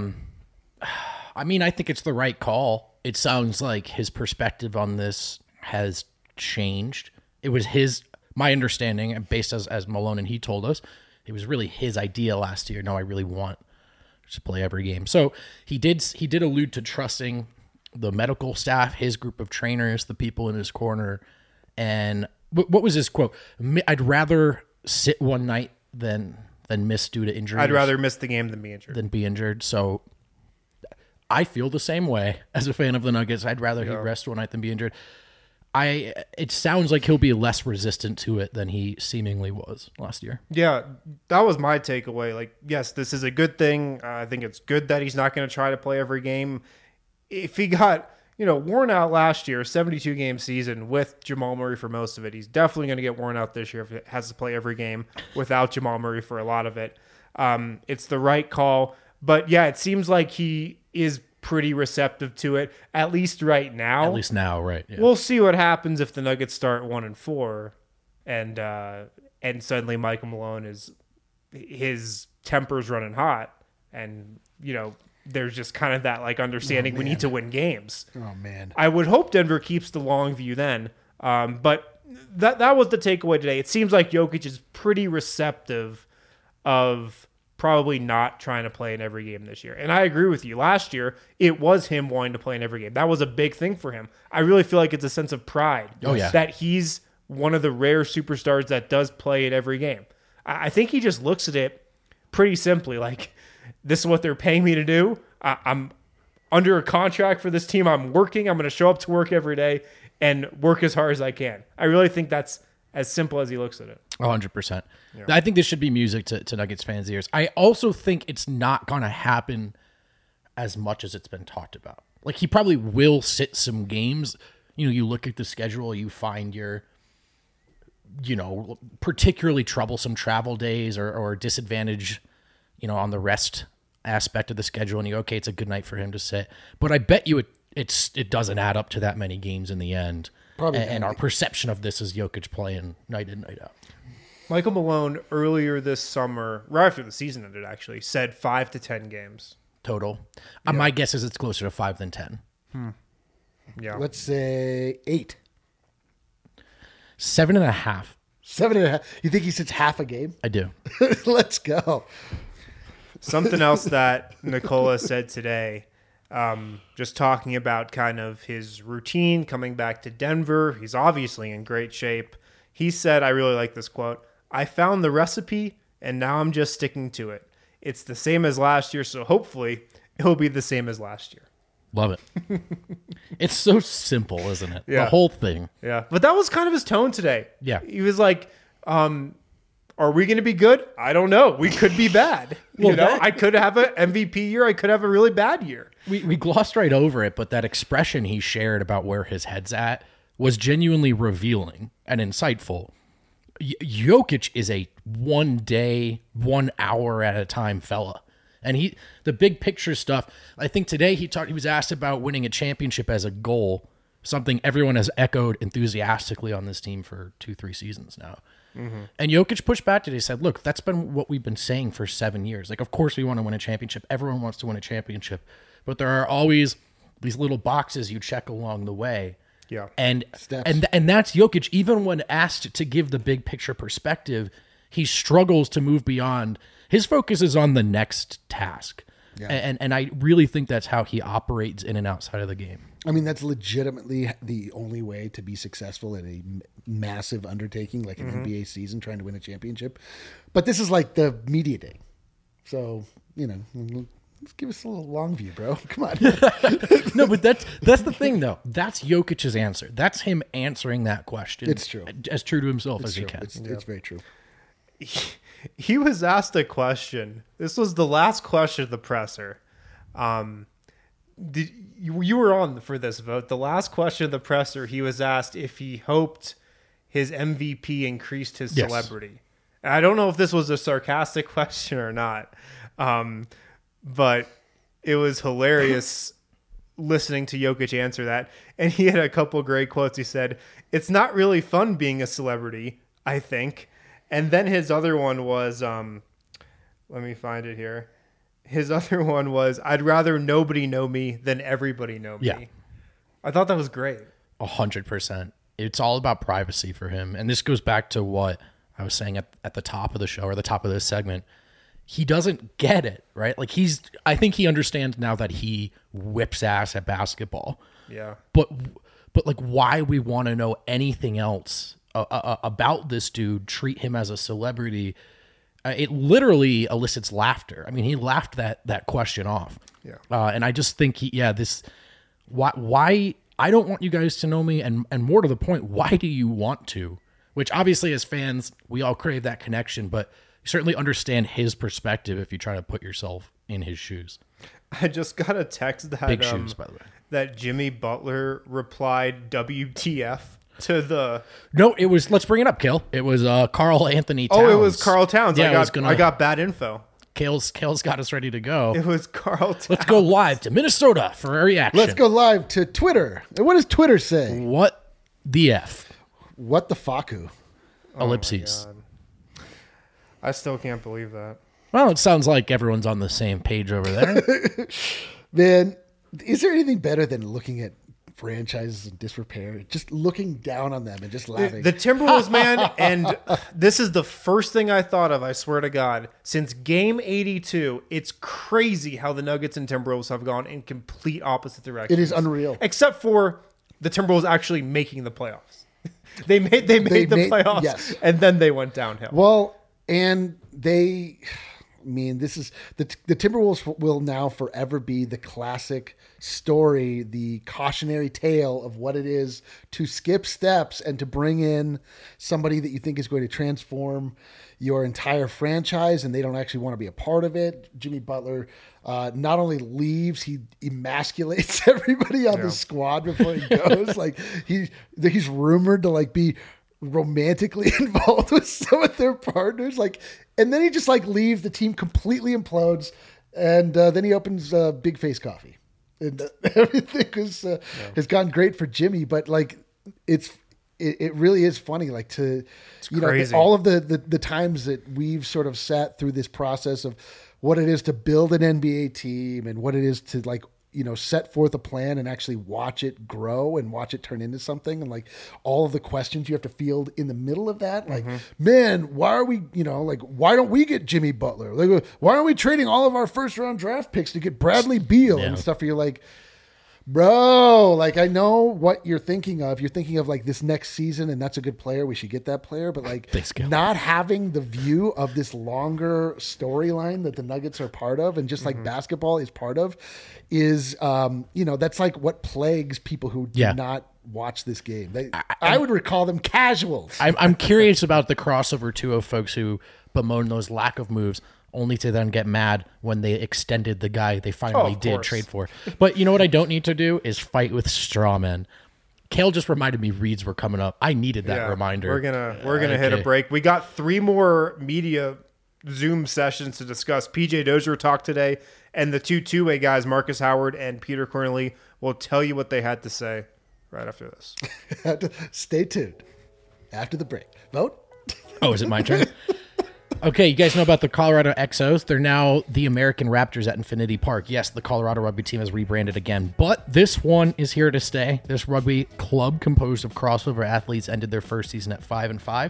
I mean, I think it's the right call. It sounds like his perspective on this has changed. It was his, my understanding, and based as, as Malone and he told us, it was really his idea last year. No, I really want to play every game. So he did, he did allude to trusting the medical staff, his group of trainers, the people in his corner. And what, what was his quote? "Mi- I'd rather sit one night than, than miss due to injury. I'd rather miss the game than be injured. than be injured. So I feel the same way as a fan of the Nuggets. I'd rather he rest one night than be injured. I. It sounds like he'll be less resistant to it than he seemingly was last year. Yeah, that was my takeaway. Like, yes, this is a good thing. Uh, I think it's good that he's not going to try to play every game. If he got, you know, worn out last year, seventy-two game season with Jamal Murray for most of it, he's definitely going to get worn out this year if he has to play every game without Jamal Murray for a lot of it. Um, it's the right call. But yeah, it seems like he is pretty receptive to it, at least right now. At least now, right? Yeah. We'll see what happens if the Nuggets start one and four, and uh, and suddenly Michael Malone is his temper's running hot, and you know there's just kind of that like understanding Oh, we man. need to win games. Oh man. I would hope Denver keeps the long view then, um, but that that was the takeaway today. It seems like Jokic is pretty receptive of probably not trying to play in every game this year. And I agree with you. Last year, it was him wanting to play in every game. That was a big thing for him. I really feel like it's a sense of pride Oh, yeah. that he's one of the rare superstars that does play in every game. I I think he just looks at it pretty simply like, this is what they're paying me to do. I, I'm under a contract for this team. I'm working. I'm going to show up to work every day and work as hard as I can. I really think that's as simple as he looks at it. one hundred percent. I think this should be music to, to Nuggets fans' ears. I also think it's not going to happen as much as it's been talked about. Like, he probably will sit some games. You know, you look at the schedule, you find your, you know, particularly troublesome travel days or, or disadvantage, you know, on the rest aspect of the schedule, and you, okay, it's a good night for him to sit. But I bet you it it's it doesn't add up to that many games in the end. Probably and, and not. our perception of this is Jokic playing night in, night out. Michael Malone earlier this summer, right after the season ended actually, said five to ten games. Total. Uh, my guess is it's closer to five than ten. Yeah. Let's say eight. Seven and a half. Seven and a half. You think he sits half a game? I do. Let's go. Something else that Nikola said today, um, just talking about kind of his routine coming back to Denver. He's obviously in great shape. He said, I really like this quote, I found the recipe and now I'm just sticking to it. It's the same as last year, so hopefully it'll be the same as last year. Love it. It's so simple, isn't it? Yeah. The whole thing. Yeah. But that was kind of his tone today. Yeah. He was like, um, are we going to be good? I don't know. We could be bad. You Well, know, that- I could have an M V P year. I could have a really bad year. We, we glossed right over it, but that expression he shared about where his head's at was genuinely revealing and insightful. Y- Jokic is a one day, one hour at a time fella. And he, the big picture stuff, I think today he talked, he was asked about winning a championship as a goal, something everyone has echoed enthusiastically on this team for two, three seasons now. Mm-hmm. And Jokic pushed back today. He said, look, that's been what we've been saying for seven years. Like, of course we want to win a championship. Everyone wants to win a championship, but there are always these little boxes you check along the way. Yeah. And, Steps. and, and that's Jokic. Even when asked to give the big picture perspective, he struggles to move beyond. His focus is on the next task. Yeah. And, and I really think that's how he operates in and outside of the game. I mean, that's legitimately the only way to be successful in a m- massive undertaking like an N B A season trying to win a championship. But this is like the media day. So, you know, let's give us a little long view, bro. Come on. No, but that's that's the thing, though. That's Jokic's answer. That's him answering that question. It's true. As true to himself It's as true. he can. It's, it's very true. He was asked a question. This was the last question of the presser. Um, did you, you were on for this vote? The last question of the presser, he was asked if he hoped his M V P increased his Yes. celebrity. And I don't know if this was a sarcastic question or not, um, but it was hilarious listening to Jokic answer that. And he had a couple great quotes. He said, "It's not really fun being a celebrity, I think." And then his other one was, um, let me find it here. His other one was, I'd rather nobody know me than everybody know me. Yeah. I thought that was great. A hundred percent. It's all about privacy for him. And this goes back to what I was saying at, at the top of the show or the top of this segment. He doesn't get it, right? Like he's, I think he understands now that he whips ass at basketball. Yeah. But, but like why we want to know anything else uh, uh, about this dude, treat him as a celebrity, uh, it literally elicits laughter. I mean, he laughed that, that question off. Yeah. Uh, and I just think, he, yeah, this, why, why, I don't want you guys to know me. And, and more to the point, why do you want to? Which obviously as fans, we all crave that connection, but you certainly understand his perspective if you try to put yourself in his shoes. I just got a text that Big um, shoes, by the way. that Jimmy Butler replied W T F to the. No, it was, let's bring it up, Kale. It was uh, Carl Anthony Towns. Oh, it was Carl Towns. Yeah, I I got was gonna- I got bad info. Kale's, Kale's got us ready to go. It was Carl Towns. Let's go live to Minnesota for a reaction. Let's go live to Twitter. And what does Twitter say? What the F? What the faku? Ellipses. God. I still can't believe that. Well, it sounds like everyone's on the same page over there. Man, is there anything better than looking at franchises in disrepair, just looking down on them and just laughing? The Timberwolves, man, and this is the first thing I thought of, I swear to God, since game eighty-two. It's crazy how the Nuggets and Timberwolves have gone in complete opposite directions. It is unreal. Except for the Timberwolves actually making the playoffs. they made they made They the made- playoffs, yes. and then they went downhill. Well, and they, I mean, this is the the Timberwolves will now forever be the classic story, the cautionary tale of what it is to skip steps and to bring in somebody that you think is going to transform your entire franchise, and they don't actually want to be a part of it. Jimmy Butler uh, not only leaves, he emasculates everybody on Yeah. the squad before he goes. Like he he's rumored to like be romantically involved with some of their partners, like, and then he just like leaves, the team completely implodes, and uh, then he opens uh, Big Face Coffee, and uh, everything was, uh, yeah. has gone great for Jimmy. But like, it's it, it really is funny, like to it's you crazy. know all of the, the the times that we've sort of sat through this process of what it is to build an N B A team and what it is to like, you know, set forth a plan and actually watch it grow and watch it turn into something. And like all of the questions you have to field in the middle of that, like, mm-hmm. man, why are we, you know, like, why don't we get Jimmy Butler? Like, why aren't we trading all of our first round draft picks to get Bradley Beal yeah. and stuff? Where you're like, bro, like, I know what you're thinking of. You're thinking of like this next season, and that's a good player. We should get that player. But like not having the view of this longer storyline that the Nuggets are part of, and just like mm-hmm. basketball is part of, is, um, you know, that's like what plagues people who do yeah. not watch this game. They, I, I, I would recall them casuals. I'm, I'm curious about the crossover too of folks who bemoan those lack of moves, only to then get mad when they extended the guy they finally oh, did course. trade for. But you know what I don't need to do is fight with straw men. Kale just reminded me Reeds were coming up. I needed that yeah, reminder. We're gonna we're gonna uh, hit okay. a break. We got three more media Zoom sessions to discuss. P J Dozier talked today, and the two two-way guys, Marcus Howard and Peter Cornely, will tell you what they had to say right after this. Stay tuned. After the break. Vote. Oh, is it my turn? Okay, you guys know about the Colorado X Os. They're now the American Raptors at Infinity Park. Yes, the Colorado rugby team has rebranded again, but this one is here to stay. This rugby club composed of crossover athletes ended their first season at five and five.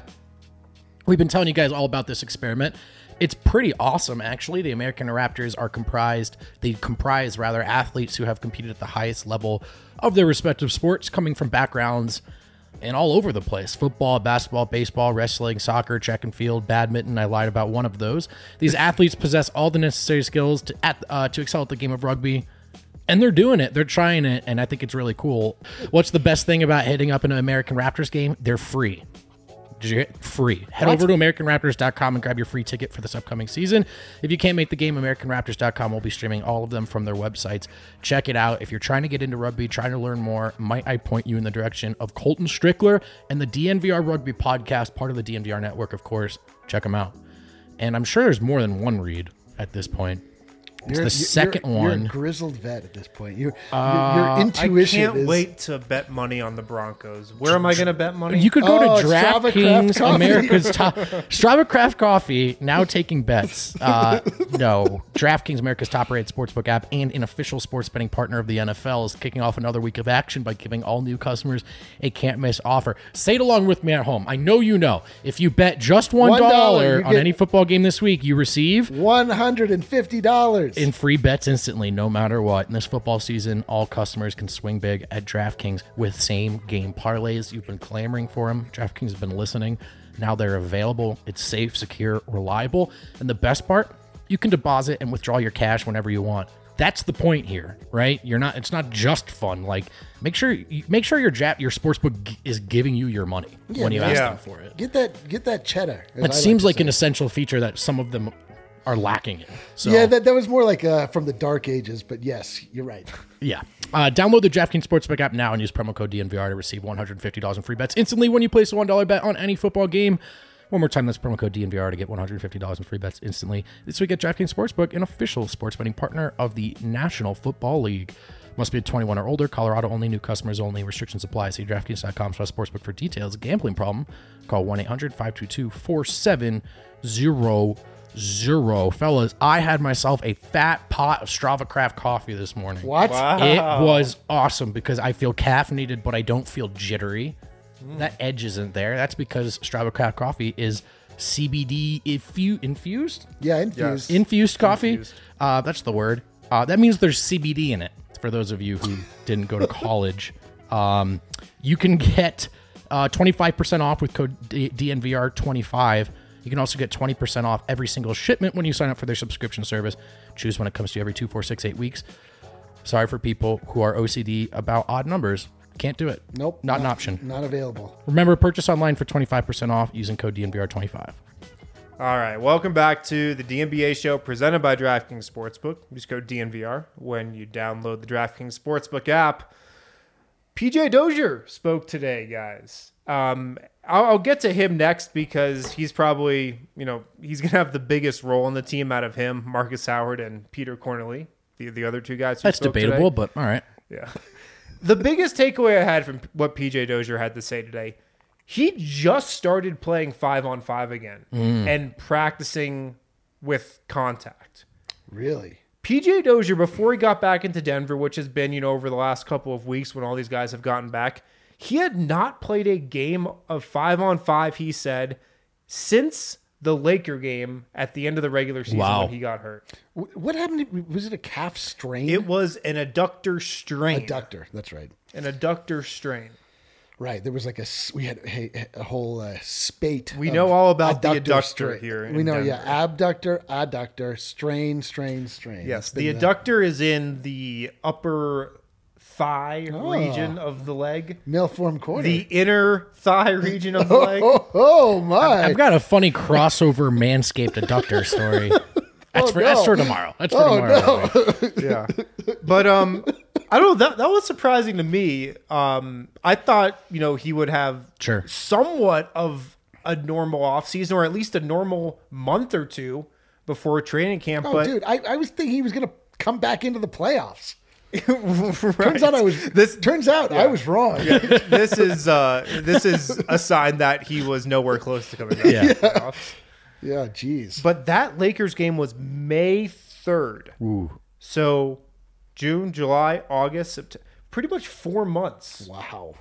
We've been telling you guys all about this experiment. It's pretty awesome, actually. The American Raptors are comprised, they comprise rather athletes who have competed at the highest level of their respective sports, coming from backgrounds and all over the place. Football, basketball, baseball, wrestling, soccer, track and field, badminton. I lied about one of those. These athletes possess all the necessary skills to at, uh, to excel at the game of rugby. And they're doing it. They're trying it. And I think it's really cool. What's the best thing about hitting up an American Raptors game? They're free. Did you get free? Head what? over to American Raptors dot com and grab your free ticket for this upcoming season. If you can't make the game, American Raptors dot com will be streaming all of them from their websites. Check it out. If you're trying to get into rugby, trying to learn more, might I point you in the direction of Colton Strickler and the D N V R Rugby Podcast, part of the D N V R network, of course. Check them out. And I'm sure there's more than one read at this point. It's you're, the second you're, one. You're a grizzled vet at this point. You're, Uh, your, your intuition I can't is... wait to bet money on the Broncos. Where am I going to bet money? You could go Oh, to Strava Craft DraftKings, Coffee. America's top Strava Craft Coffee, now taking bets. Uh, no, DraftKings, America's top-rated sportsbook app and an official sports betting partner of the N F L, is kicking off another week of action by giving all new customers a can't-miss offer. Say it along with me at home. I know you know. If you bet just one One dollar, dollar you on get- any football game this week, you receive one hundred fifty dollars. in free bets instantly, no matter what. In this football season, all customers can swing big at DraftKings with same-game parlays. You've been clamoring for them. DraftKings has been listening. Now they're available. It's safe, secure, reliable. And the best part, you can deposit and withdraw your cash whenever you want. That's the point here, right? You're not. It's not just fun. Like, make sure you, make sure your ja- your sportsbook g- is giving you your money Yeah, when you man. ask Yeah. them for it. Get that get that cheddar. as I It seems to like say. an essential feature that some of them are lacking in. So, Yeah, that, that was more like uh, from the dark ages, but yes, you're right. yeah. Uh, download the DraftKings Sportsbook app now and use promo code D N V R to receive one hundred fifty dollars in free bets instantly when you place a one dollar bet on any football game. One more time, that's promo code D N V R to get one hundred fifty dollars in free bets instantly. This week at DraftKings Sportsbook, an official sports betting partner of the National Football League. Must be twenty-one or older. Colorado only. New customers only. Restrictions apply. See DraftKings.com slash sportsbook for details. Gambling problem? Call one eight hundred five two two four seven zero zero. Fellas, I had myself a fat pot of Strava Craft coffee this morning. What? It was awesome because I feel caffeinated, but I don't feel jittery. That edge isn't there. That's because Strava Craft coffee is C B D infu- infused? Yeah, infused. Infused coffee? Infused. Uh, that's the word. Uh, that means there's C B D in it, for those of you who didn't go to college. Um, you can get uh, twenty-five percent off with code D- DNVR twenty-five. You can also get twenty percent off every single shipment when you sign up for their subscription service. Choose when it comes to you every two, four, six, eight weeks. Sorry for people who are O C D about odd numbers. Can't do it. Nope. Not an option. Not available. Remember, purchase online for twenty-five percent off using code D N V R twenty-five. All right, welcome back to the D N B A show presented by DraftKings Sportsbook. Use code D N V R when you download the DraftKings Sportsbook app. P J Dozier spoke today, guys. Um, I'll, I'll get to him next because he's probably, you know, he's going to have the biggest role in the team out of him, Marcus Howard and Peter Cornely, the, the other two guys who That's spoke debatable, today. but all right. Yeah. The biggest takeaway I had from what P J Dozier had to say today, he just started playing five on five again and practicing with contact. Really? P J Dozier, before he got back into Denver, which has been, you know, over the last couple of weeks when all these guys have gotten back, he had not played a game of five on five, he said, since the Laker game at the end of the regular season Wow. when he got hurt. Wh- What happened? to- Was it a calf strain? It was an adductor strain. Adductor. That's right. An adductor strain. Right. There was like a s- we had a, a whole uh, spate. We of know all about the adductor adductor strain. here in We know, Denver. yeah, abductor, adductor, strain, strain, strain. Yes, It's the been, uh, adductor is in the upper thigh Oh. region of the leg. Milform corner. The inner thigh region of the leg. oh, oh my! I've got a funny crossover Manscaped adductor story. That's, Oh, for, that's no. for tomorrow. That's for Oh, tomorrow. no. Yeah. But um I don't know, that that was surprising to me. Um I thought, you know, he would have Sure. somewhat of a normal offseason or at least a normal month or two before training camp. Oh, but dude, I, I was thinking he was going to come back into the playoffs. Right. Turns out I was. This- turns out I was wrong. this is uh this is a sign that he was nowhere close to coming back. Yeah. to the playoffs. Yeah, jeez. But that Lakers game was May third. Ooh. So June, July, August, September, pretty much four months. Wow.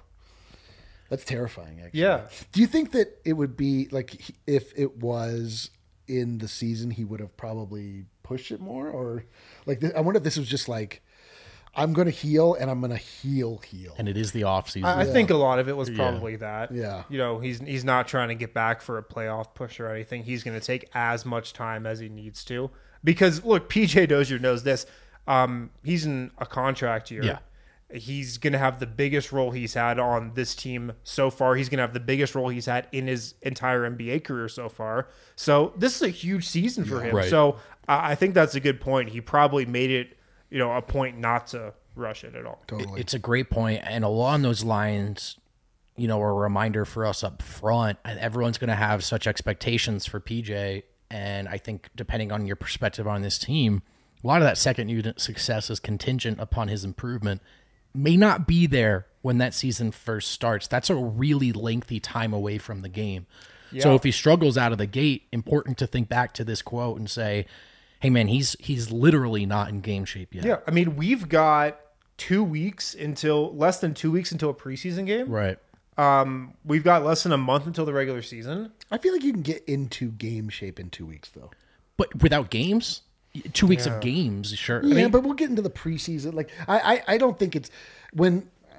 That's terrifying, actually. Yeah. Do you think that it would be like he- if it was in the season, he would have probably pushed it more? Or like, th- I wonder if this was just like, I'm going to heal and I'm going to heal, heal. And it is the off season. I, I think a lot of it was probably that. Yeah. You know, he's he's not trying to get back for a playoff push or anything. He's going to take as much time as he needs to. Because, look, P J Dozier knows this. Um, he's in a contract year. Yeah. He's going to have the biggest role he's had on this team so far. He's going to have the biggest role he's had in his entire N B A career so far. So this is a huge season for him. Right. So I I think that's a good point. He probably made it, you know, a point not to rush it at all. Totally. It's a great point, and along those lines, you know, a reminder for us up front. And everyone's going to have such expectations for P J, and I think depending on your perspective on this team, a lot of that second unit success is contingent upon his improvement. May not be there when that season first starts. That's a really lengthy time away from the game. So Yeah. if he struggles out of the gate, important to think back to this quote and say, hey man, he's he's literally not in game shape yet. Yeah, I mean, we've got two weeks until less than two weeks until a preseason game. Right. Um, we've got less than a month until the regular season. I feel like you can get into game shape in two weeks, though. But without games, two weeks of games, sure. Yeah, I mean, but we'll get into the preseason. Like, I, I, I don't think it's when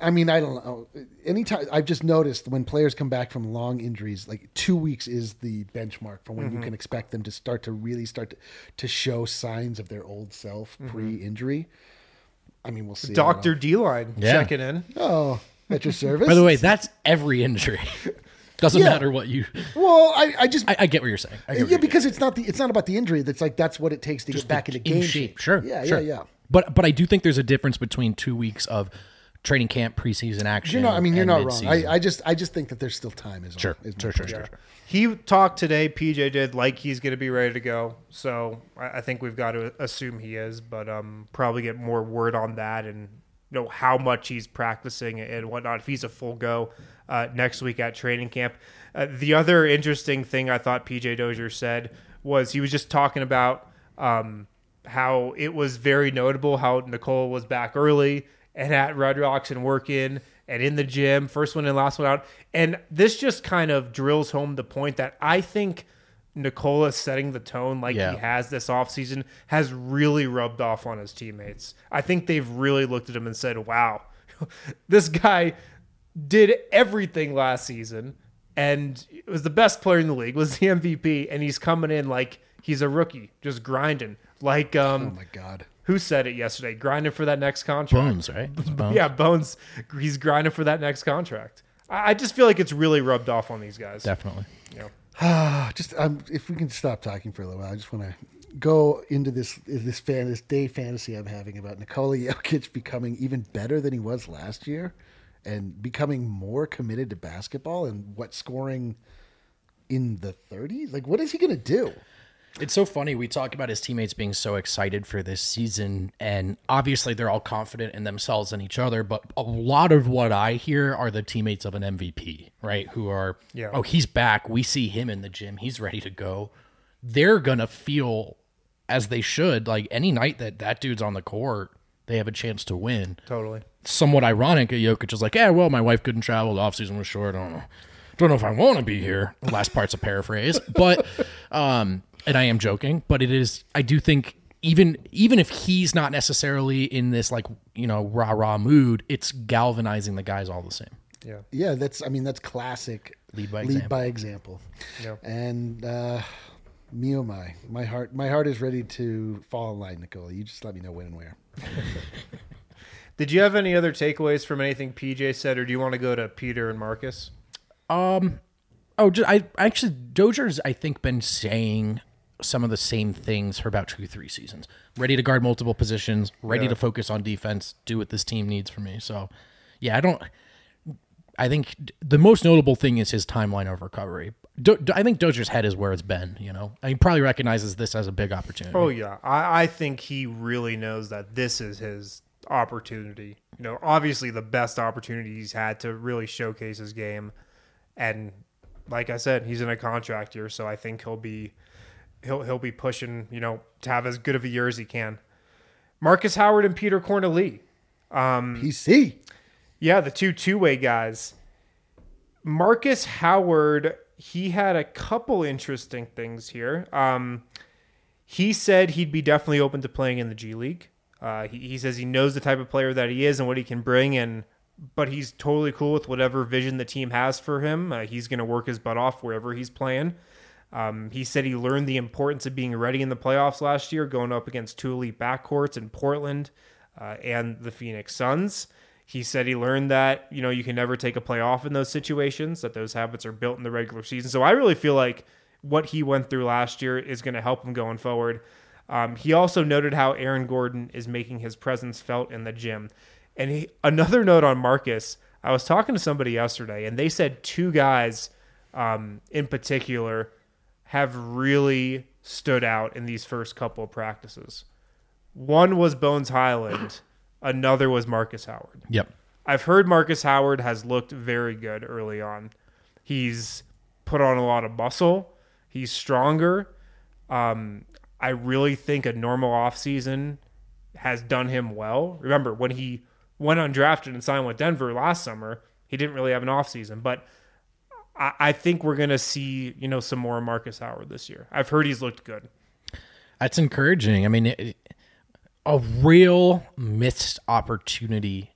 I mean, I don't know. Anytime I've just noticed when players come back from long injuries, like two weeks is the benchmark for when mm-hmm. you can expect them to start to really start to, to show signs of their old self mm-hmm. pre-injury. I mean, we'll see. Doctor D-Line yeah. checking in. Oh, at your service. By the way, that's every injury. Doesn't yeah. matter what you. Well, I, I just I, I get what you're saying. I get yeah, what because it's not the it's not about the injury. That's like that's what it takes to just get back into game in shape. Sure. Yeah, sure. yeah, yeah. But but I do think there's a difference between two weeks of training camp, preseason action. You're not. I mean, you're not mid-season. wrong. I, I just I just think that there's still time. Is sure. All, is sure, sure, sure, yeah. sure. He talked today. P J did like he's going to be ready to go. So I, I think we've got to assume he is, but um, probably get more word on that and know how much he's practicing and whatnot. If he's a full go uh, next week at training camp. Uh, the other interesting thing I thought P J Dozier said was he was just talking about um, how it was very notable how Nicole was back early and at Red Rocks and working and in the gym, first one in, last one out. And this just kind of drills home the point that I think Nikola setting the tone like yeah. he has this offseason has really rubbed off on his teammates. I think they've really looked at him and said, wow, this guy did everything last season and was the best player in the league, was the M V P, and he's coming in like he's a rookie, just grinding. Like, um, oh my God. Who said it yesterday? Grinding for that next contract. Bones, right? It's Bones. Yeah, Bones. He's grinding for that next contract. I, I just feel like it's really rubbed off on these guys. Definitely. You know? just um, if we can stop talking for a little while, I just want to go into this this fan this day fantasy I'm having about Nikola Jokic becoming even better than he was last year, and becoming more committed to basketball and what scoring in the thirties. Like, what is he going to do? It's so funny. We talk about his teammates being so excited for this season, and obviously they're all confident in themselves and each other. But a lot of what I hear are the teammates of an M V P, right? Who are, yeah. oh, he's back. We see him in the gym. He's ready to go. They're going to feel, as they should, like any night that that dude's on the court, they have a chance to win. Totally. Somewhat ironic. Jokic is like, yeah, well, my wife couldn't travel. The offseason was short. I don't know. Don't know if I want to be here. The last part's a paraphrase. But, um... and I am joking, but it is, I do think even even if he's not necessarily in this like, you know, rah-rah mood, it's galvanizing the guys all the same. Yeah. Yeah, that's, I mean, that's classic. Lead by lead example. by example. Yeah. And uh, me oh my, my heart, my heart is ready to fall in line, Nikola. You just let me know when and where. Did you have any other takeaways from anything P J said, or do you want to go to Peter and Marcus? Um, oh, just, I actually, Dozier's, I think, been saying some of the same things for about two, three seasons. Ready to guard multiple positions, ready yeah. to focus on defense, do what this team needs from me. So, yeah, I don't. I think the most notable thing is his timeline of recovery. Do, I think Dozier's head is where it's been. You know, he probably recognizes this as a big opportunity. Oh yeah, I, I think he really knows that this is his opportunity. You know, obviously the best opportunity he's had to really showcase his game, and like I said, he's in a contract year, so I think he'll be. He'll he'll be pushing, you know, to have as good of a year as he can. Marcus Howard and Peter Corneli. Um, P C. Yeah, the two two-way guys. Marcus Howard, he had a couple interesting things here. Um, he said he'd be definitely open to playing in the G League. Uh, he, he says he knows the type of player that he is and what he can bring, and but he's totally cool with whatever vision the team has for him. Uh, he's going to work his butt off wherever he's playing. Um, he said he learned the importance of being ready in the playoffs last year, going up against two elite backcourts in Portland uh, and the Phoenix Suns. He said he learned that, you know, you can never take a play off in those situations, that those habits are built in the regular season. So I really feel like what he went through last year is going to help him going forward. Um, he also noted how Aaron Gordon is making his presence felt in the gym. And he, another note on Marcus, I was talking to somebody yesterday, and they said two guys um, in particular have really stood out in these first couple of practices. One was Bones Highland. Another was Marcus Howard. Yep. I've heard Marcus Howard has looked very good early on. He's put on a lot of muscle. He's stronger. Um, I really think a normal offseason has done him well. Remember, when he went undrafted and signed with Denver last summer, he didn't really have an offseason. But I, I think we're going to see, you know, some more Marcus Howard this year. I've heard he's looked good. That's encouraging. I mean, it, a real missed opportunity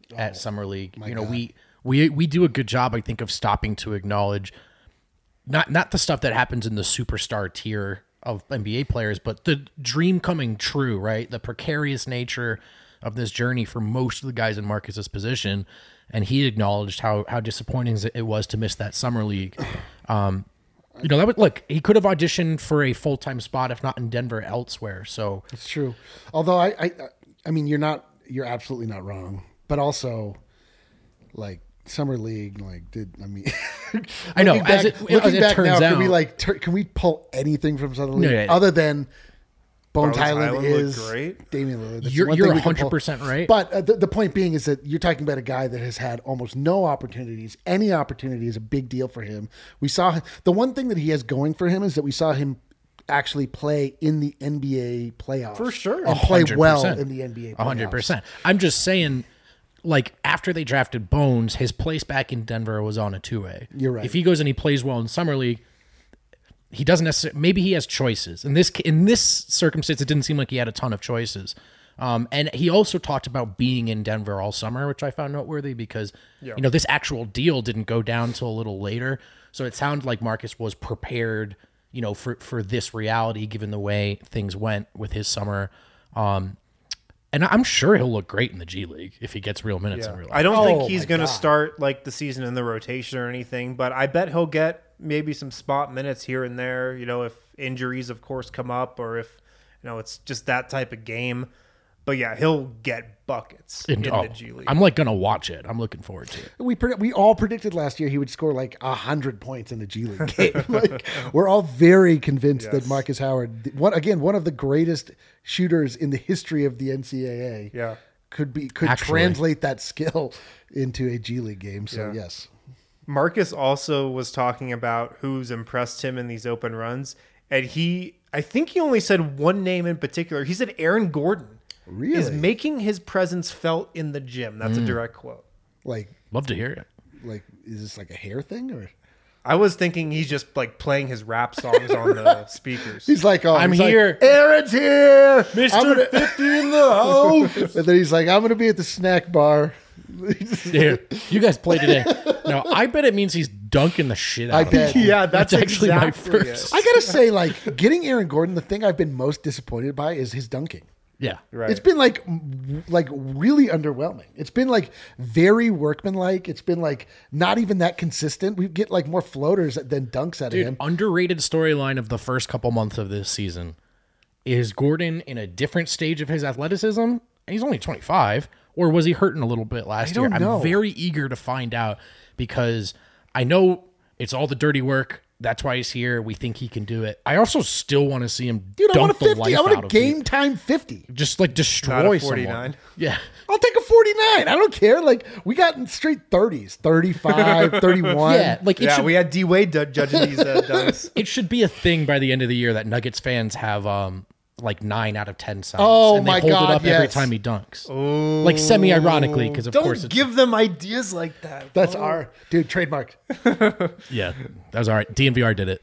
at Summer League. You know, God. we we we do a good job, I think, of stopping to acknowledge not not the stuff that happens in the superstar tier of N B A players, but the dream coming true, right? The precarious nature of this journey for most of the guys in Marcus's position. And he acknowledged how how disappointing it was to miss that Summer League. Um, you know, that would look, he could have auditioned for a full-time spot, if not in Denver, elsewhere. So it's true. Although I, I, I mean, you're not, you're absolutely not wrong, but also like Summer League, like did, I mean, I know back, as it, looking as it back turns now, out, can we like, tur- can we pull anything from Summer League No, yeah, yeah. other than Bones Bones Highland Highland is looked great. Damian Lillard. That's You're, one you're thing we can one hundred pull. percent right. But uh, the, the point being is that you're talking about a guy that has had almost no opportunities. Any opportunity is a big deal for him. We saw him, the one thing that he has going for him is that we saw him actually play in the N B A playoffs. For sure. And play well one hundred percent. in the N B A playoffs. one hundred percent. I'm just saying, like, after they drafted Bones, his place back in Denver was on a two-way. You're right. If he goes and he plays well in Summer League, he doesn't necessarily, maybe he has choices. In this in this circumstance, it didn't seem like he had a ton of choices. Um, and he also talked about being in Denver all summer, which I found noteworthy because, Yeah. you know, this actual deal didn't go down till a little later. So it sounded like Marcus was prepared, you know, for, for this reality, given the way things went with his summer. Um, and I'm sure he'll look great in the G League if he gets real minutes Yeah. in real life. I don't Oh think he's my going to God. start like the season in the rotation or anything, but I bet he'll get maybe some spot minutes here and there, you know, if injuries, of course, come up or if, you know, it's just that type of game. But yeah, he'll get buckets in, And, oh, the G League. I'm like going to watch it. I'm looking forward to it. We predi- we all predicted last year he would score like a hundred points in the G League game. Like we're all very convinced that Yes. Marcus Howard, one again, one of the greatest shooters in the history of the N C double A, Yeah. could be could Actually. translate that skill into a G League game. So Yeah. yes, Marcus also was talking about who's impressed him in these open runs. And he, I think he only said one name in particular. He said Aaron Gordon really, is making his presence felt in the gym. That's a direct quote. like Love to hear it. like is this like a hair thing or? I was thinking he's just like playing his rap songs on the speakers. He's like, oh, I'm he's like, here. Aaron's here, Mister I'm gonna- fifty in the house. and then he's like, I'm gonna be at the snack bar. Here, you guys play today. No, I bet it means he's dunking the shit out I of bet. people. Yeah, that's actually my exactly first. I gotta say, like getting Aaron Gordon, the thing I've been most disappointed by is his dunking. Yeah. Right. It's been like m- like really underwhelming. It's been like very workmanlike. It's been like not even that consistent. We get like more floaters than dunks out Dude, of him. underrated storyline of the first couple months of this season is Gordon in a different stage of his athleticism. And he's only twenty-five, or was he hurting a little bit last I don't year? know. I'm very eager to find out because I know it's all the dirty work. That's why he's here. We think he can do it. I also still want to see him Dude, I dunk want a the fifty. life I want out a of game people. time fifty. Just like Not destroy a someone. forty-nine. Yeah. I'll take a forty-nine. I don't care. Like we got in straight thirties, thirty-five, thirty-one. Yeah. Like it yeah, should we had D Wade du- judging these uh, dunks. it should be a thing by the end of the year that Nuggets fans have um like nine out of ten signs. Oh, and they my hold God, it up every yes. time he dunks. Like semi ironically, because of Don't course it's give them ideas like that. That's our dude trademark. yeah, that was all right. D N V R did it.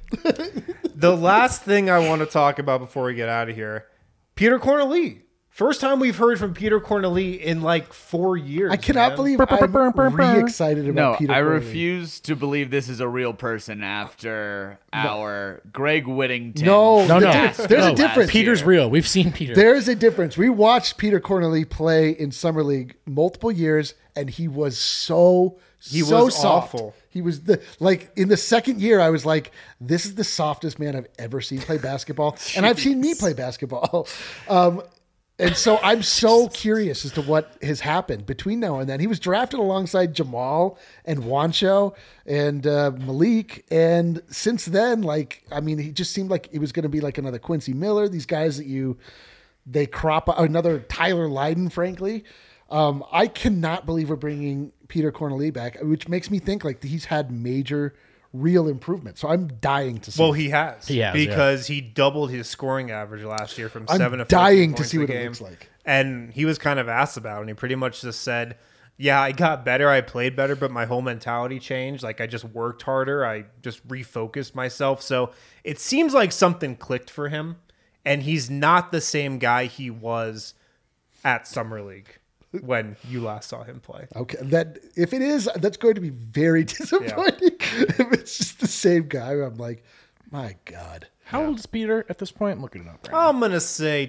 The last thing I want to talk about before we get out of here, Peter Corneli. First time we've heard from Peter Corneli in like four years. I cannot man. believe I'm re excited about No, Peter. I Corley. refuse to believe this is a real person after our Greg Whittington. No, No, no, fiasco there's a last difference. Peter's year. real. We've seen Peter. There is a difference. We watched Peter Corneli play in Summer League multiple years, and he was so He so was soft. awful. He was the like in the second year. I was like, this is the softest man I've ever seen play basketball, and I've seen me play basketball. Um, and so I'm so curious as to what has happened between now and then. He was drafted alongside Jamal and Wancho and uh, Malik, and since then, like I mean, he just seemed like it was going to be like another Quincy Miller. These guys that you they crop another Tyler Lydon, frankly. Um, I cannot believe we're bringing Peter Corneli back, which makes me think like he's had major, real improvement. So I'm dying to see. Well, it. he has. He has, because he doubled his scoring average last year from I'm seven to dying fourteen to points see a what it game. looks like. And he was kind of asked about it, and he pretty much just said, "Yeah, I got better. I played better, but my whole mentality changed. Like I just worked harder. I just refocused myself. So it seems like something clicked for him, and he's not the same guy he was at Summer League." when you last saw him play. Okay, that if it is, that's going to be very disappointing. If it's just the same guy, I'm like, my God. How old is Peter at this point? I'm looking it up right now. I'm gonna say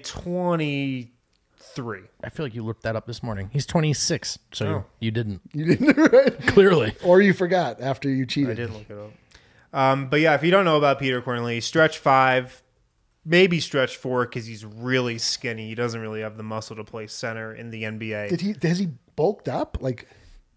twenty-three. I feel like you looked that up this morning. He's twenty-six, so Oh. you didn't. You didn't, right? Clearly. Or you forgot after you cheated. I did look it up. Um, but yeah, if you don't know about Peter Corneli, stretch five, maybe stretch four because he's really skinny. He doesn't really have the muscle to play center in the N B A. Did he? Has he bulked up? Like,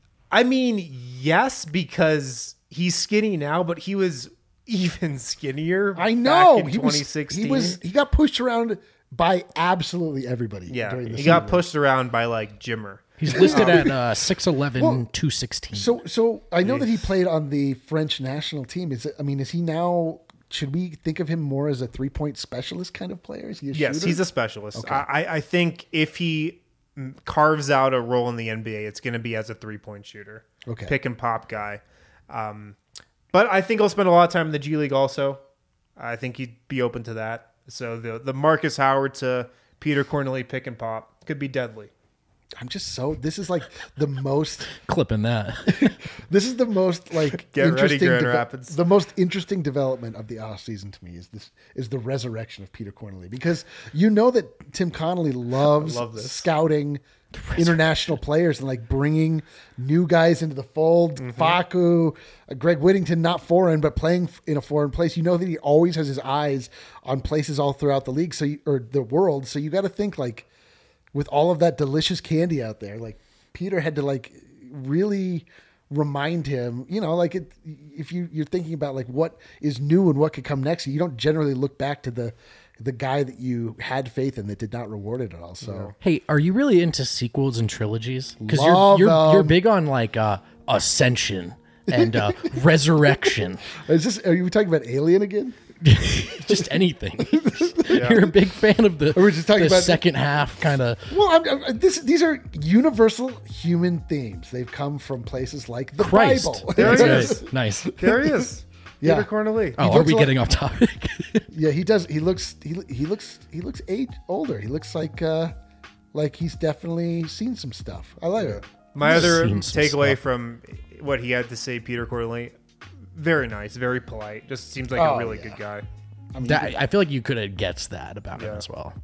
I mean, yes, because he's skinny now, but he was even skinnier. I know back in he twenty was. sixteen. He was. He got pushed around by absolutely everybody. Yeah, during the he season. got pushed around by like Jimmer. He's listed at uh, six eleven, two sixteen. So, so I know that he played on the French national team. Is it, I mean, is he now? Should we think of him more as a three point specialist kind of player? Is he a Yes, shooter? he's a specialist. Okay. I, I think if he mm, carves out a role in the N B A, it's going to be as a three point shooter, Okay. pick and pop guy. Um, but I think he'll spend a lot of time in the G League. Also, I think he'd be open to that. So the the Marcus Howard to Peter Corneli pick and pop could be deadly. I'm just so. This is like the most. Clipping that. This is the most like Get ready, interesting. Grand deve- Rapids. The most interesting development of the offseason to me is this is the resurrection of Peter Corneli, because you know that Tim Connolly loves love this. scouting international players and like bringing new guys into the fold. Mm-hmm. Facu, uh, Greg Whittington, not foreign but playing f- in a foreign place. You know that he always has his eyes on places all throughout the league, so you, or the world. So you got to think like. With all of that delicious candy out there, like Peter had to like really remind him, you know, like it, if you, you're thinking about like what is new and what could come next, you don't generally look back to the the guy that you had faith in that did not reward it at all. So Hey, are you really into sequels and trilogies? Because you're Love you're them. you're big on like uh, Ascension and uh, Resurrection, is this? Are you talking about Alien again? just anything. You're a big fan of the, Or we're just talking the about- second half kind of. Well, I'm, I'm, this these are universal human themes. They've come from places like the Christ. Bible. There That's he right. is. Nice. There he is, Yeah. Peter Corneli. Oh, are looks we like- getting off topic? Yeah, he does. He looks. He he looks. He looks age older. He looks like uh, like he's definitely seen some stuff. I like it. My other Seen some takeaway stuff. from what he had to say, Peter Corneli, very nice, very polite. Just seems like Oh, a really yeah. good guy. I mean, That, I feel like you could have guessed that about him Yeah. as well.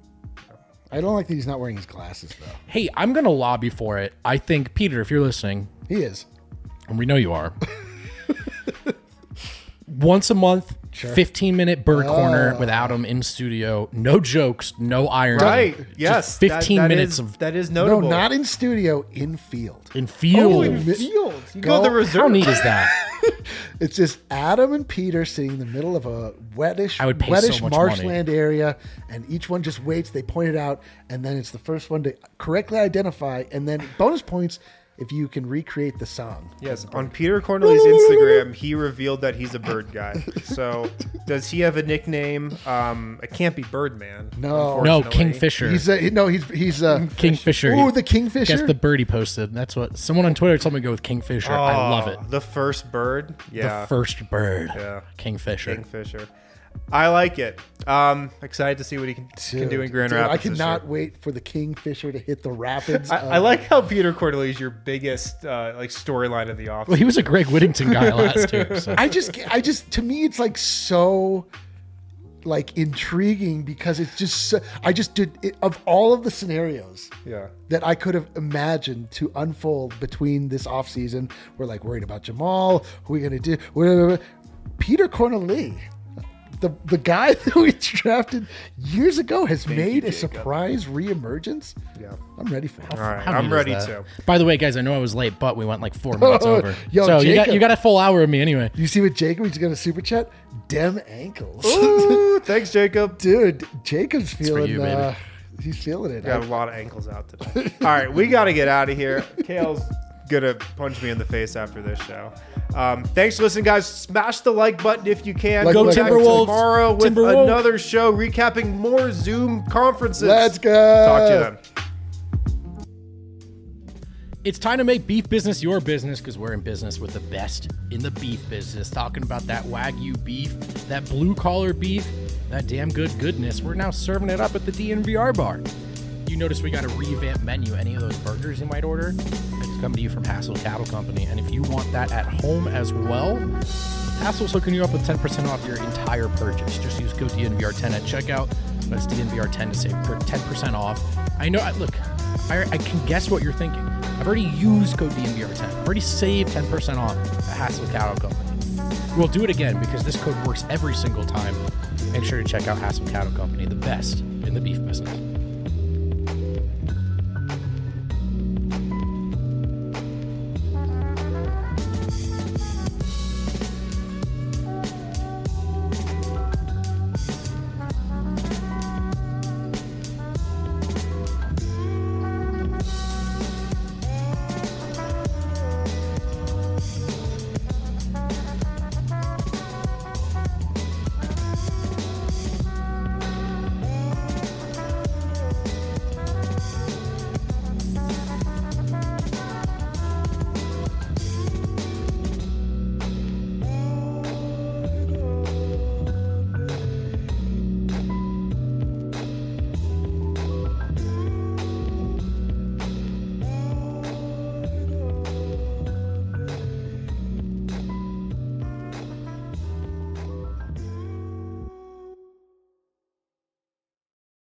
I don't like that he's not wearing his glasses though. Hey, I'm gonna lobby for it. I think Peter, if you're listening, He is. and we know you are, once a month, Sure. fifteen minute bird corner with Adam in studio. No jokes, no irony. Right? Just Yes. fifteen that- that minutes is- of that is No, notable. not in studio. In field. in field. Oh, in field. You go, Go- to the reserve. How neat is that? It's just Adam and Peter sitting in the middle of a wettish, I would pay wettish so much money. marshland area, and each one just waits. They point it out, and then it's the first one to correctly identify, and then bonus points if you can recreate the song. Yes, on Peter Corneli's Instagram, he revealed that he's a bird guy. So, does he have a nickname? Um, it can't be Birdman. No. No, unfortunately. Kingfisher. He's a, no, he's he's a Kingfisher. Ooh, the Kingfisher. Guess the bird he posted. That's what someone on Twitter told me to go with Kingfisher. Oh, I love it. The first bird. Yeah. The first bird. Yeah. Kingfisher. Kingfisher. I like it. Um, excited to see what he can, can do in Grand Dude, Rapids. I this cannot year. wait for the Kingfisher to hit the rapids. I, of- I like how Peter Corneli is your biggest uh, like storyline of the offseason. Well, he was a Greg Whittington guy last year. So. I just, I just, to me, it's like so, like intriguing because it's just, so, I just did it, of all of the scenarios yeah. that I could have imagined to unfold between this offseason. We're like worried about Jamal. Who are we gonna do? Whatever. Peter Corneli, the the guy that we drafted years ago, has made you, a Jacob. surprise reemergence. Yeah. I'm ready for it. All right. How I'm neat is ready that? to. By the way, guys, I know I was late, but we went like four minutes over. Yo, so you got Jacob. you got a full hour of me anyway. You see what Jacob? He's got a super chat. Dem ankles. Ooh, thanks, Jacob. Dude, Jacob's feeling. you, baby. uh, he's feeling it. Got a lot of ankles out today. All right, we got to get out of here. Kale's gonna punch me in the face after this show. Um, thanks for listening, guys. Smash the like button if you can. Like, Go like, back Timberwolves. tomorrow with Timberwolves. another show recapping more Zoom conferences. Let's go. Talk to you then. It's time to make beef business your business because we're in business with the best in the beef business. Talking about that Wagyu beef, that blue collar beef, that damn good goodness. We're now serving it up at the D N V R bar. You you notice we got a revamped menu. Any of those burgers you might order, it's coming to you from Hassel Cattle Company. And if you want that at home as well, Hassel's hooking you up with ten percent off your entire purchase. Just use code D N V R ten at checkout. That's D N V R ten to save ten percent off. I know, look, I, I can guess what you're thinking. I've already used code D N V R ten. I've already saved ten percent off at Hassel Cattle Company. We'll do it again because this code works every single time. Make sure to check out Hassel Cattle Company, the best in the beef business.